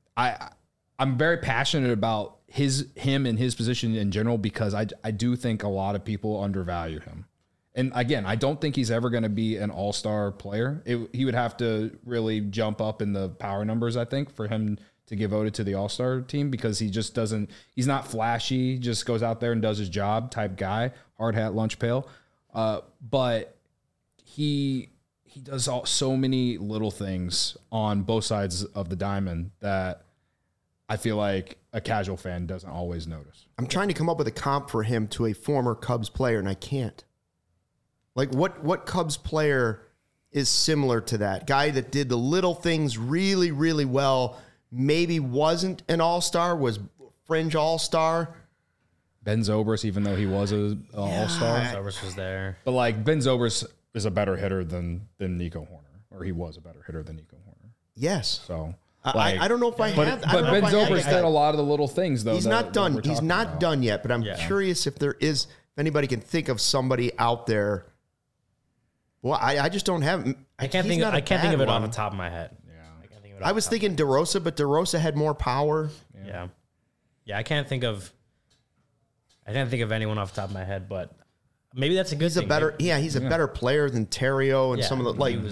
I'm very passionate about him and his position in general because I do think a lot of people undervalue him. And again, I don't think he's ever going to be an all-star player. He would have to really jump up in the power numbers, I think, for him to get voted to the all-star team, because he just doesn't, he's not flashy, just goes out there and does his job type guy, hard hat, lunch pail. But he does so many little things on both sides of the diamond that I feel like a casual fan doesn't always notice. I'm trying to come up with a comp for him to a former Cubs player, and I can't. Like, what Cubs player is similar to that? Guy that did the little things really, really well, maybe wasn't an all-star, was fringe all-star. Ben Zobrist, even though he was an all-star. Zobrist was there. But, like, Ben Zobrist is a better hitter than Nico Hoerner, or he was a better hitter than Nico Hoerner. Yes. So, like, I don't know if I have. But Ben Zobrist did a lot of the little things, though. He's not done. He's not done yet, but I'm curious if anybody can think of somebody out there. Well, I just don't have. I can't think of it on the top of my head. I was thinking DeRosa, but DeRosa had more power. Yeah. I can't think of anyone off the top of my head, but maybe that's a good thing. He's a better player than Terrio and some of the like.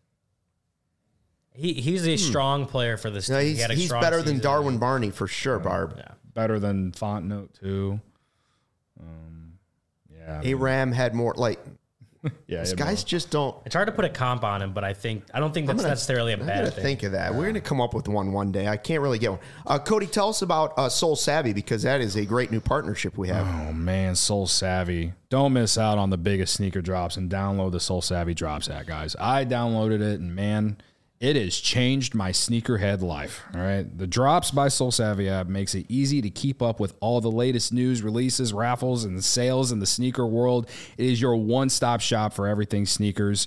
He's a strong player for this team. He's better than Darwin Barney for sure, Barb. Yeah. Better than Fontenot too. Aram had more like. These guys just don't. It's hard to put a comp on him, but I don't think that's necessarily a bad thing. Think of that. We're going to come up with one day. I can't really get one. Cody, tell us about Soul Savvy, because that is a great new partnership we have. Oh man, Soul Savvy! Don't miss out on the biggest sneaker drops and download the Soul Savvy Drops app, guys. I downloaded it, and man, it has changed my sneakerhead life. All right. The Drops by Soul Savvy app makes it easy to keep up with all the latest news, releases, raffles, and sales in the sneaker world. It is your one-stop shop for everything sneakers.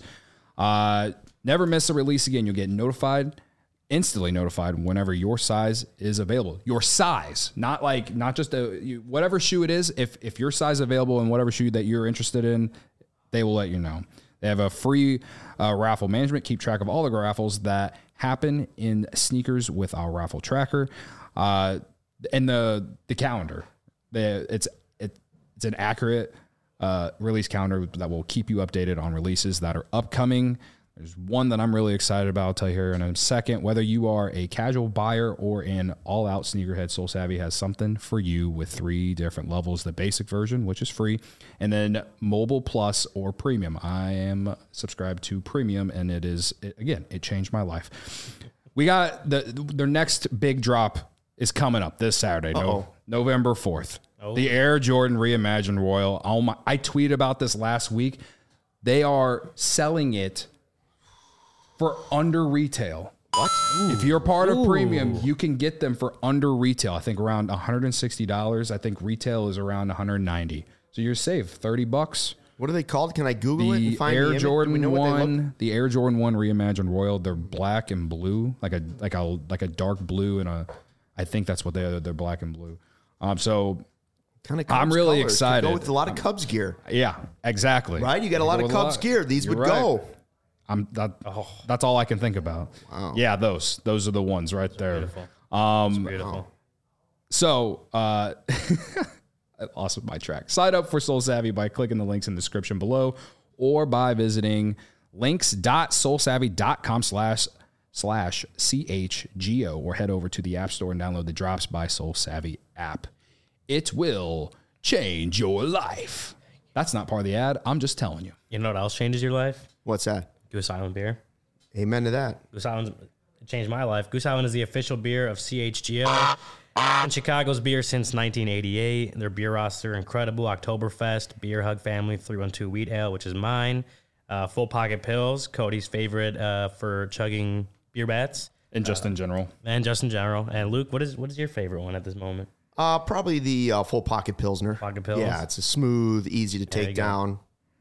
Never miss a release again. You'll get instantly notified whenever your size is available. Your size, not just whatever shoe it is. If your size is available in whatever shoe that you're interested in, they will let you know. They have a free raffle management. Keep track of all the raffles that happen in sneakers with our raffle tracker, and the calendar. It's an accurate release calendar that will keep you updated on releases that are upcoming. There's one that I'm really excited about. I'll tell you here in a second. Whether you are a casual buyer or an all-out sneakerhead, Soul Savvy has something for you with 3 different levels. The basic version, which is free, and then Mobile Plus or Premium. I am subscribed to Premium, and it changed my life. We got their next big drop is coming up this Saturday, November 4th. The Air Jordan Reimagined Royal. I tweeted about this last week. They are selling it for under retail. What? If you're part of Premium, you can get them for under retail. I think around $160. I think retail is around $190. So you're safe $30. What are they called? Can I Google it and find Air Jordan 1? The Air Jordan 1 Reimagined Royal. They're black and blue, like a dark blue, and I think that's what they are. They're black and blue. So kind of I'm really excited. Go with a lot of Cubs gear. Yeah, exactly. Right? You got a lot of Cubs gear. These would go. That's all I can think about. Wow. Yeah, those are the ones right there. Beautiful. Beautiful. So I lost my track. Sign up for Soul Savvy by clicking the links in the description below, or by visiting links.soulsavvy.com/CHGO, or head over to the App Store and download the Drops by Soul Savvy app. It will change your life. That's not part of the ad. I'm just telling you. You know what else changes your life? What's that? Goose Island beer. Amen to that. Goose Island changed my life. Goose Island is the official beer of CHGO and Chicago's beer since 1988. Their beer roster incredible. Oktoberfest, Beer Hug Family, 312 Wheat Ale, which is mine. Full Pocket Pills, Cody's favorite for chugging beer bats. And just in general. And Luke, what is your favorite one at this moment? Probably the Full Pocket Pilsner. Pocket Pills. Yeah, it's a smooth, easy to take down.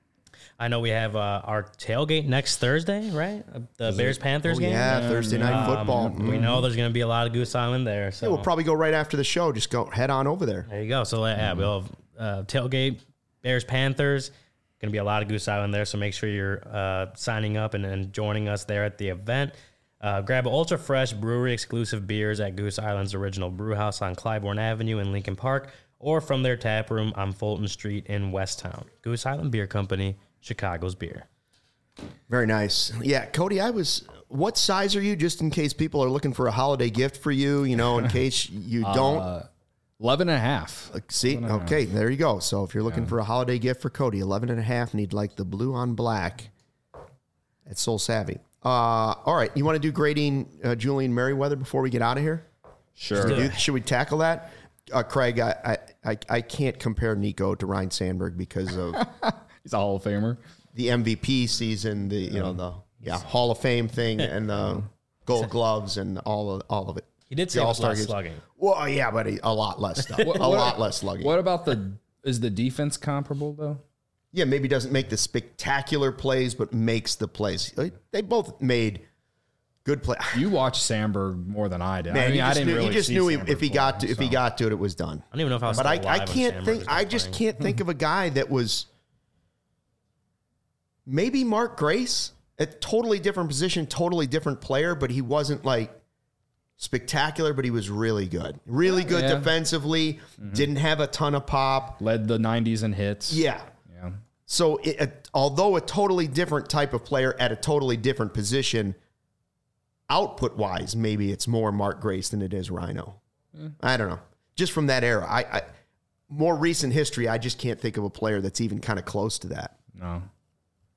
I know we have our tailgate next Thursday, right? The Bears-Panthers game? Yeah, Thursday night football. We know there's going to be a lot of Goose Island there. So we'll probably go right after the show. Just go head on over there. There you go. So we'll have tailgate, Bears-Panthers. Going to be a lot of Goose Island there, so make sure you're signing up and joining us there at the event. Grab ultra-fresh brewery-exclusive beers at Goose Island's original brew house on Clybourne Avenue in Lincoln Park, or from their tap room on Fulton Street in Westtown. Goose Island Beer Company, Chicago's beer. Very nice. Yeah, Cody, what size are you, just in case people are looking for a holiday gift for you, in case you don't? 11.5. See? 11.5. Okay, there you go. So if you're looking for a holiday gift for Cody, 11.5, need the blue on black at Soul Savvy. All right, you want to do grading Julian Merriweather before we get out of here? Sure. Should we tackle that? Craig, I can't compare Nico to Ryan Sandberg because of... He's a Hall of Famer. The MVP season, the Hall of Fame thing, and the Gold Gloves and all of it. He did say all-star slugging. Well, yeah, but a lot less stuff. Lot less slugging. What about is the defense comparable though? Yeah, maybe doesn't make the spectacular plays, but makes the plays. They both made good plays. You watched Sandberg more than I did. Man, I didn't really. He just knew if he got to it, it was done. I don't even know if I was. But I can't think. I just can't think of a guy that was. Maybe Mark Grace, a totally different position, totally different player, but he wasn't spectacular, but he was really good. Really good defensively, didn't have a ton of pop. Led the 90s in hits. Yeah. So although a totally different type of player at a totally different position, output-wise, maybe it's more Mark Grace than it is Rhino. I don't know. Just from that era. I more recent history, I just can't think of a player that's even kind of close to that. No.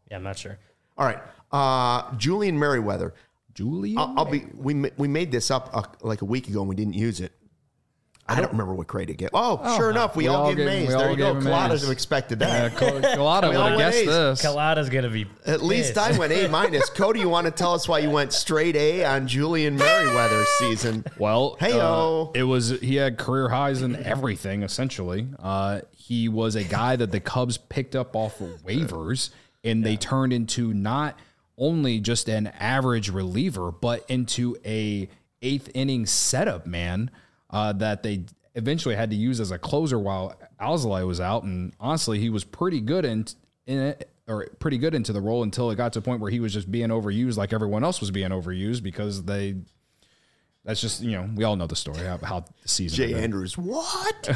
Yeah, I'm not sure. All right. Julian Merriweather. We made this up like a week ago and we didn't use it. I don't remember what grade it gave. Sure enough, we all gave Mays. There you go. Coladas have expected that. Colada would have guessed this. Colada's going to be At least I went A-. Cody, you want to tell us why you went straight A on Julian Merriweather's season? Well, he had career highs in everything, essentially. He was a guy that the Cubs picked up off of waivers, and they turned into not only just an average reliever, but into a eighth inning setup man. That they eventually had to use as a closer while Alzolay was out, and honestly, he was pretty good in it, or pretty good into the role until it got to a point where he was just being overused, like everyone else was being overused, because that's just we all know the story how the season. Jay Andrews, what?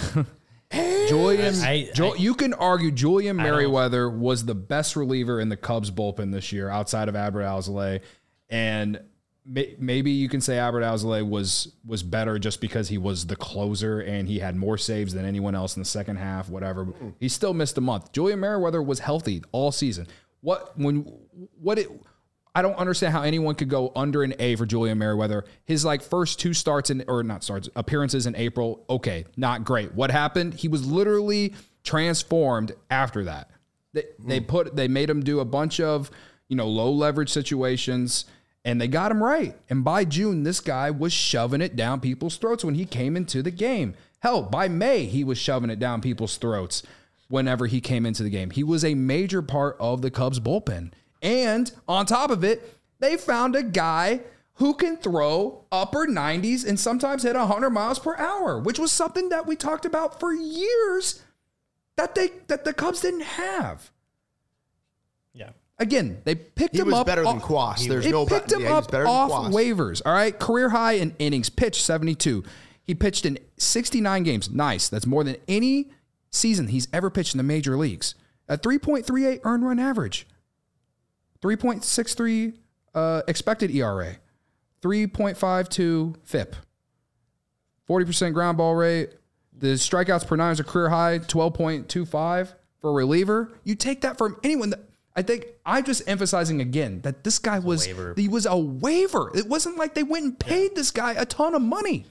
You can argue Julian Merriweather was the best reliever in the Cubs bullpen this year, outside of Adbert Alzolay, and maybe you can say Adbert Alzolay was better just because he was the closer and he had more saves than anyone else in the second half, whatever. He still missed a month. Julian Merriweather was healthy all season. I don't understand how anyone could go under an A for Julian Merriweather. His first two appearances in April, okay, not great. What happened? He was literally transformed after that. They made him do a bunch of low leverage situations. And they got him right. And by June, this guy was shoving it down people's throats when he came into the game. Hell, by May, he was shoving it down people's throats whenever he came into the game. He was a major part of the Cubs bullpen. And on top of it, they found a guy who can throw upper 90s and sometimes hit 100 miles per hour, which was something that we talked about for years that the Cubs didn't have. Yeah. Again, they picked him up. He was better than Quas. There's no picked him up off waivers. All right, career high in innings pitched, 72. He pitched in 69 games. Nice. That's more than any season he's ever pitched in the major leagues. A 3.38 earned run average, 3.63 expected ERA, 3.52 FIP, 40% ground ball rate. The strikeouts per nine is a career high, 12.25 for a reliever. You take that from anyone. I think I'm just emphasizing again that this guy was a waiver. It wasn't like they went and paid this guy a ton of money.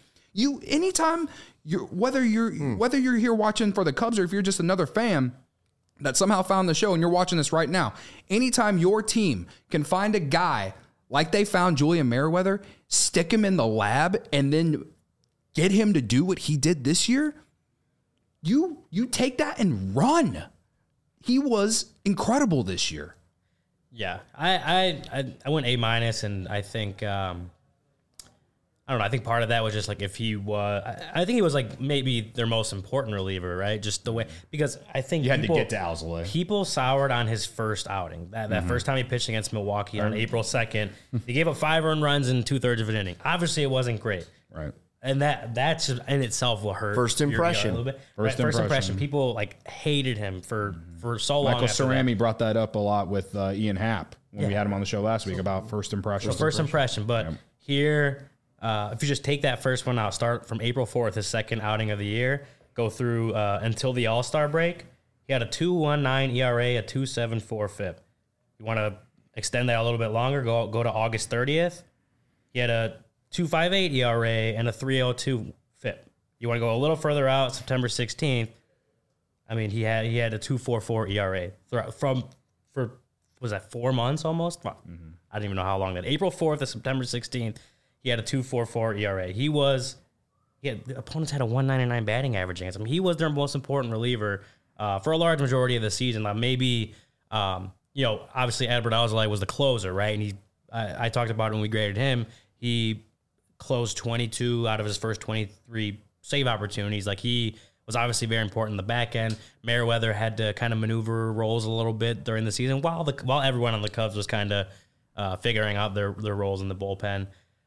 Whether you're here watching for the Cubs or if you're just another fan that somehow found the show and you're watching this right now, anytime your team can find a guy like they found Julian Merriweather, stick him in the lab, and then get him to do what he did this year, you take that and run. He was incredible this year. Yeah, I went A-, and I think I don't know. I think part of that was just if he was. I think he was maybe their most important reliever, right? Just the way, because I think you had to get to Alzolay. People soured on his first outing. That first time he pitched against Milwaukee on April 2nd, he gave up 5 earned runs in 2/3 of an inning. Obviously, it wasn't great, right? And that's in itself will hurt. First impression. A little bit. First impression. People hated him for so long. Michael Cerami brought that up a lot with Ian Happ when we had him on the show last week about first impression. First impression. But here, if you just take that first one out, start from April 4th, his second outing of the year, go through until the All-Star break, he had a 2.19 ERA, a 2.74 FIP. You want to extend that a little bit longer, go to August 30th. He had a 2.58 ERA and a 3.02 FIP. You want to go a little further out, September 16th. I mean, he had a 2.44 ERA for was that 4 months almost? I don't even know how long that. April 4th to September 16th, he had a 2.44 ERA. The opponents had a 199 batting average against him. He was their most important reliever for a large majority of the season. Maybe obviously Adbert Alzolay was the closer, right? And I talked about it when we graded him. He closed 22 out of his first 23 save opportunities. He was obviously very important in the back end. Merriweather had to kind of maneuver roles a little bit during the season while everyone on the Cubs was kind of figuring out their roles in the bullpen.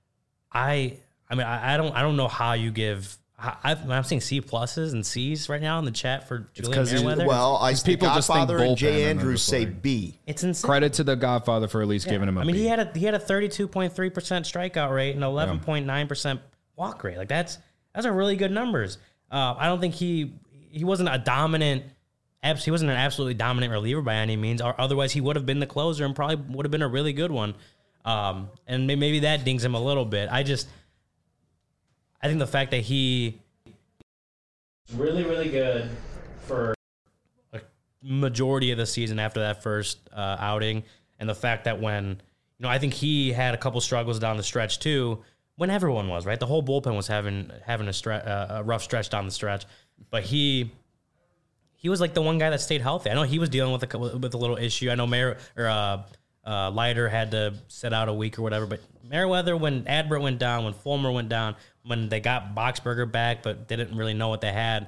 I don't know how you give. I'm seeing C pluses and C's right now in the chat for Julian Merriweather. Well, people Godfather and Jay Andrews say B. It's insane. Credit to the Godfather for at least giving him a B. He had a 32.3% strikeout rate and 11.9% walk rate. That's a really good numbers. I don't think he wasn't a dominant he wasn't an absolutely dominant reliever by any means, or otherwise he would have been the closer and probably would have been a really good one. And maybe that dings him a little bit. I think the fact that he really, really good for a majority of the season after that first outing, and the fact that when, I think he had a couple struggles down the stretch too, when everyone was, right? The whole bullpen was having a rough stretch down the stretch, but he was like the one guy that stayed healthy. I know he was dealing with a little issue. I know Leiter had to sit out a week or whatever, but Merriweather, when Adbert went down, when Fulmer went down, when they got Boxberger back but didn't really know what they had,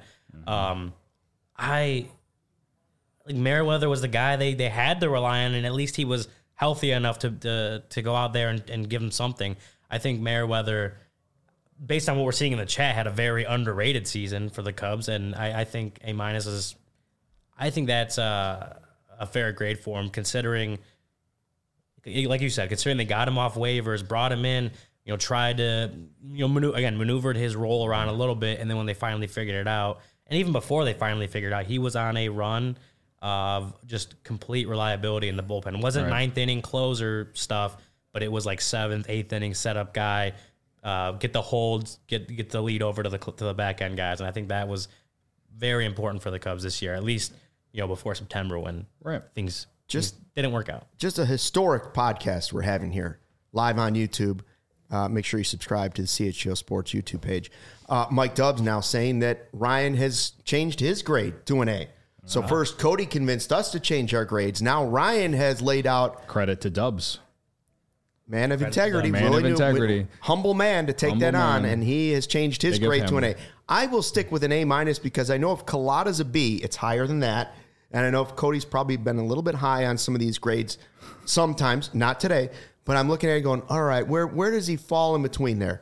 Merriweather was the guy they had to rely on, and at least he was healthy enough to go out there and give them something. I think Merriweather, based on what we're seeing in the chat, had a very underrated season for the Cubs, and I think A- is. I think that's a fair grade for him, considering, like you said, considering they got him off waivers, brought him in, tried to, maneuvered his role around a little bit, and then when they finally figured it out, and even before they finally figured it out, he was on a run of just complete reliability in the bullpen. It wasn't ninth inning closer stuff, but it was like 7th, 8th inning setup guy, get the holds, get the lead over to the back end guys, and I think that was very important for the Cubs this year, at least before September when things didn't work out. Just a historic podcast we're having here, live on YouTube. Make sure you subscribe to the CHGO Sports YouTube page. Mike Dubs now saying that Ryan has changed his grade to an A. So first, Cody convinced us to change our grades. Now Ryan has laid out. Credit to Dubs. Man of integrity. Humble man to take that on, and he has changed his grade to an A. I will stick with an A- because I know if Collada's a B, it's higher than that. And I know if Cody's probably been a little bit high on some of these grades sometimes, not today, but I'm looking at it going, all right, where does he fall in between there?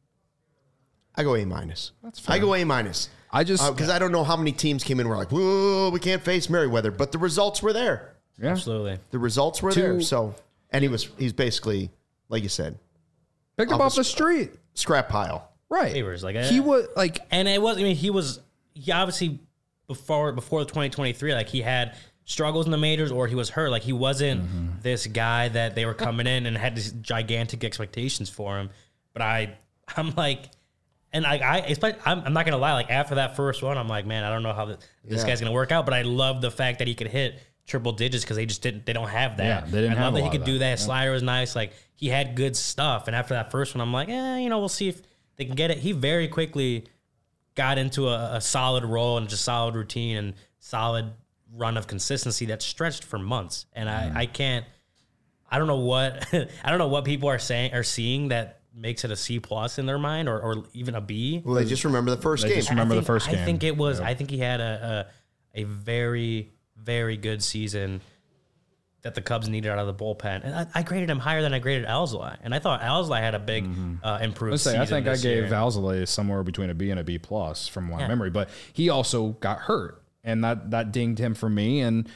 I go A-. That's fair. I go A-. Because I don't know how many teams came in and were like, whoa, we can't face Merriweather, but the results were there. Yeah. Absolutely. The results were there. So, and he's basically, like you said, picked up off the street. Scrap pile. Right. He was like, and it was, he obviously before the 2023, like he had struggles in the majors or he was hurt. Like he wasn't this guy that they were coming in and had these gigantic expectations for him. But I'm like, and I'm not gonna lie. Like after that first one, I'm like, man, I don't know how this guy's gonna work out. But I love the fact that he could hit triple digits because they don't have that. Yeah, they didn't. I love that he could do that. His slider was nice. Like he had good stuff. And after that first one, I'm like, we'll see if they can get it. He very quickly got into a solid role and just solid routine and solid run of consistency that stretched for months. And I don't know what people are seeing that makes it a C+ in their mind or even a B. Well, they just remember the first game. I think it was. Yep. I think he had a very, very good season that the Cubs needed out of the bullpen. And I graded him higher than I graded Alzolay. And I thought Alzolay had a big improved season. I think I gave Alzolay somewhere between a B and a B+ from my memory. But he also got hurt. And that dinged him for me. And,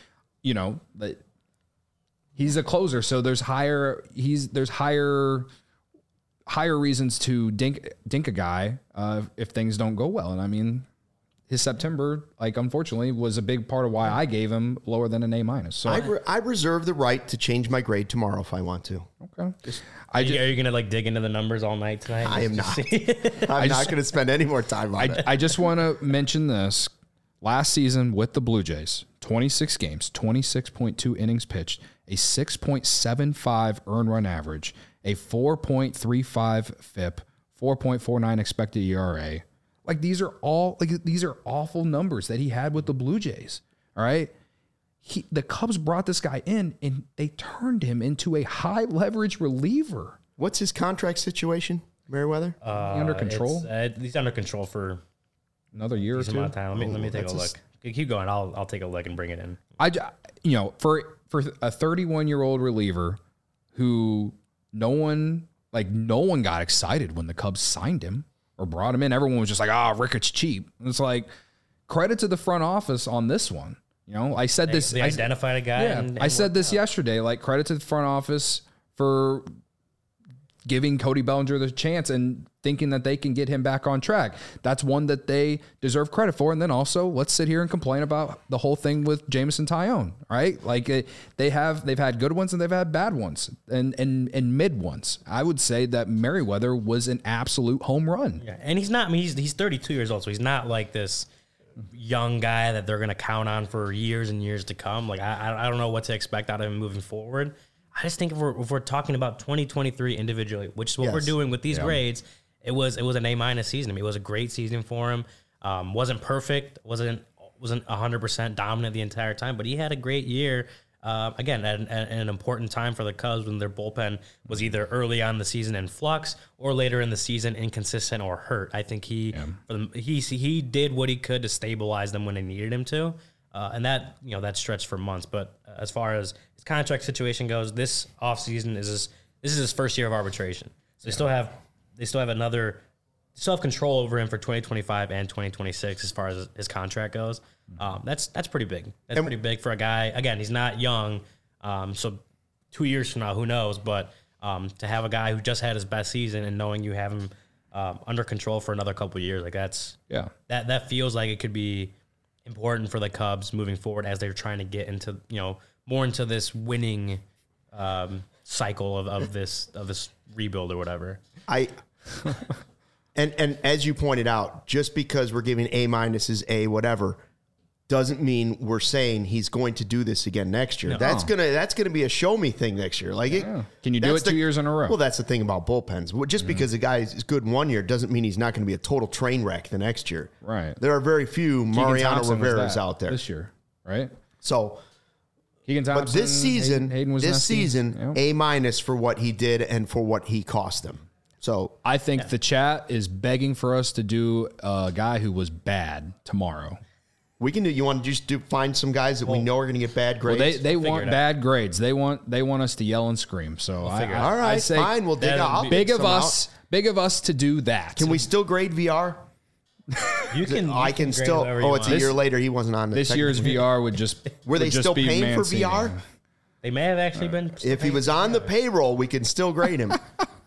he's a closer. So there's higher reasons to dink a guy if things don't go well. And I mean, his September, unfortunately, was a big part of why I gave him lower than an A-. So I reserve the right to change my grade tomorrow if I want to. Okay. Are you gonna dig into the numbers all night tonight? I am not. I'm not going to spend any more time on it. I just want to mention this. Last season with the Blue Jays, 26 games, 26.2 innings pitched, a 6.75 earned run average, a 4.35 FIP, 4.49 expected ERA. These are awful numbers that he had with the Blue Jays. All right. The Cubs brought this guy in and they turned him into a high leverage reliever. What's his contract situation, Merriweather? Under control? He's under control for another year or two. Let me take a look. Keep going. I'll take a look and bring it in. For a 31-year-old reliever who no one got excited when the Cubs signed him or brought him in. Everyone was just like, Ricketts cheap. And it's like, credit to the front office on this one. I said this. They identified a guy. Yeah, I said this yesterday. Credit to the front office for giving Cody Bellinger the chance and thinking that they can get him back on track. That's one that they deserve credit for. And then also, let's sit here and complain about the whole thing with Jameson Taillon, right? Like they've had good ones and they've had bad ones and mid ones. I would say that Merriweather was an absolute home run. Yeah, and he's not. I mean, he's 32 years old, so he's not like this young guy that they're going to count on for years and years to come. Like I don't know what to expect out of him moving forward. I just think if we're talking about 2023 individually, which is what we're doing with these grades, it was an A- season. I mean, it was a great season for him. Wasn't perfect, wasn't 100% dominant the entire time, but he had a great year. Again, at an important time for the Cubs when their bullpen was either early on in the season in flux or later in the season inconsistent or hurt. I think he did what he could to stabilize them when they needed him to, and that stretched for months. But as far as his contract situation goes, this offseason is his first year of arbitration, so they still have control over him for 2025 and 2026 as far as his contract goes. That's pretty big. That's pretty big for a guy. Again, he's not young, so 2 years from now, who knows? But to have a guy who just had his best season and knowing you have him under control for another couple of years, like that feels like it could be important for the Cubs moving forward as they're trying to get into more into this winning cycle of this rebuild or whatever. And as you pointed out, just because we're giving A- is A whatever, doesn't mean we're saying he's going to do this again next year. No. That's gonna be a show me thing next year. Like, can you do it 2 years in a row? Well, that's the thing about bullpens. Just because a guy is good 1 year doesn't mean he's not going to be a total train wreck the next year. Right. There are very few Mariano Rivera's out there this year, right? So, Keegan Thompson, but this season, Hayden A- for what he did and for what he cost them. So I think the chat is begging for us to do a guy who was bad tomorrow. We can do. You want to just find some guys that we know are going to get bad grades? Well, they want bad grades. They want us to yell and scream. So all right, fine. We'll dig out. Big of us to do that. Can we still grade VR? You can. I can still. It's a year later. He wasn't on this year's VR. Would just were they still paying for VR? They may have actually been. If he was on the payroll, we can still grade him.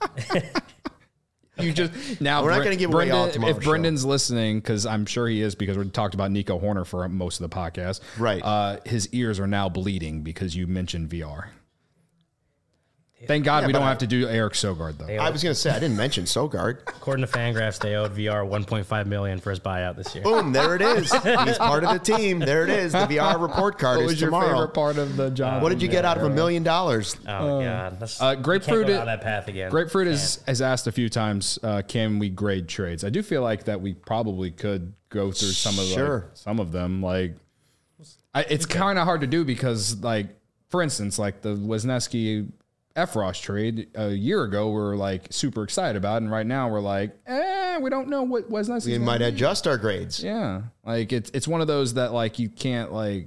We're not going to give away all tomorrow's show. Brendan's listening, because I'm sure he is, because we talked about Nico Horner for most of the podcast. Right. His ears are now bleeding because you mentioned VR. Thank God we don't have to do Eric Sogard, though. I was going to say, I didn't mention Sogard. According to Fangraphs, they owed VR $1.5 million for his buyout this year. Boom, there it is. He's part of the team. There it is. The VR report card is tomorrow. What was your favorite part of the job? What did you get out of $1 million? Oh, God. Grapefruit, can't go down that path again. Grapefruit has asked a few times, can we grade trades? I do feel like that we probably could go through some of them. Like, it's kind of hard to do because, like, for instance, like the Wisniewski Efros trade a year ago, we're like super excited about, and right now we're like, we don't know what Wisniewski. We might adjust our grades. Yeah, like it's one of those that like you can't like,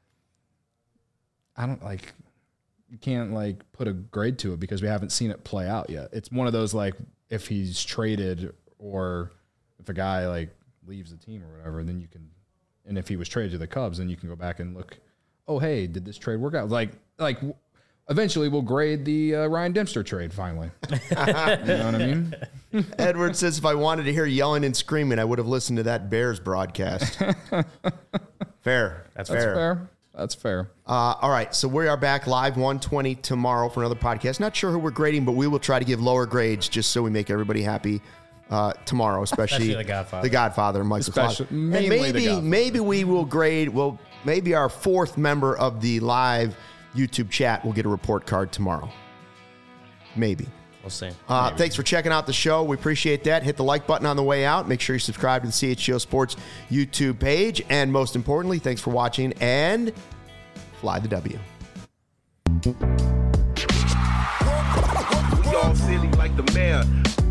you can't like put a grade to it because we haven't seen it play out yet. It's one of those like if he's traded or if a guy like leaves the team or whatever, then you can, and if he was traded to the Cubs, then you can go back and look. Oh, hey, did this trade work out? Like. Eventually, we'll grade the Ryan Dempster trade, finally. You know what I mean? Edward says, if I wanted to hear yelling and screaming, I would have listened to that Bears broadcast. Fair. That's fair. That's fair. All right, so we are back live 1:20 tomorrow for another podcast. Not sure who we're grading, but we will try to give lower grades just so we make everybody happy tomorrow, especially The Godfather. The Godfather, Michael Clausen. And maybe we will grade, maybe our fourth member of the live YouTube chat will get a report card tomorrow. Maybe. We'll see. Thanks for checking out the show. We appreciate that. Hit the like button on the way out. Make sure you subscribe to the CHGO Sports YouTube page. And most importantly, thanks for watching and fly the W. We all silly like the mayor.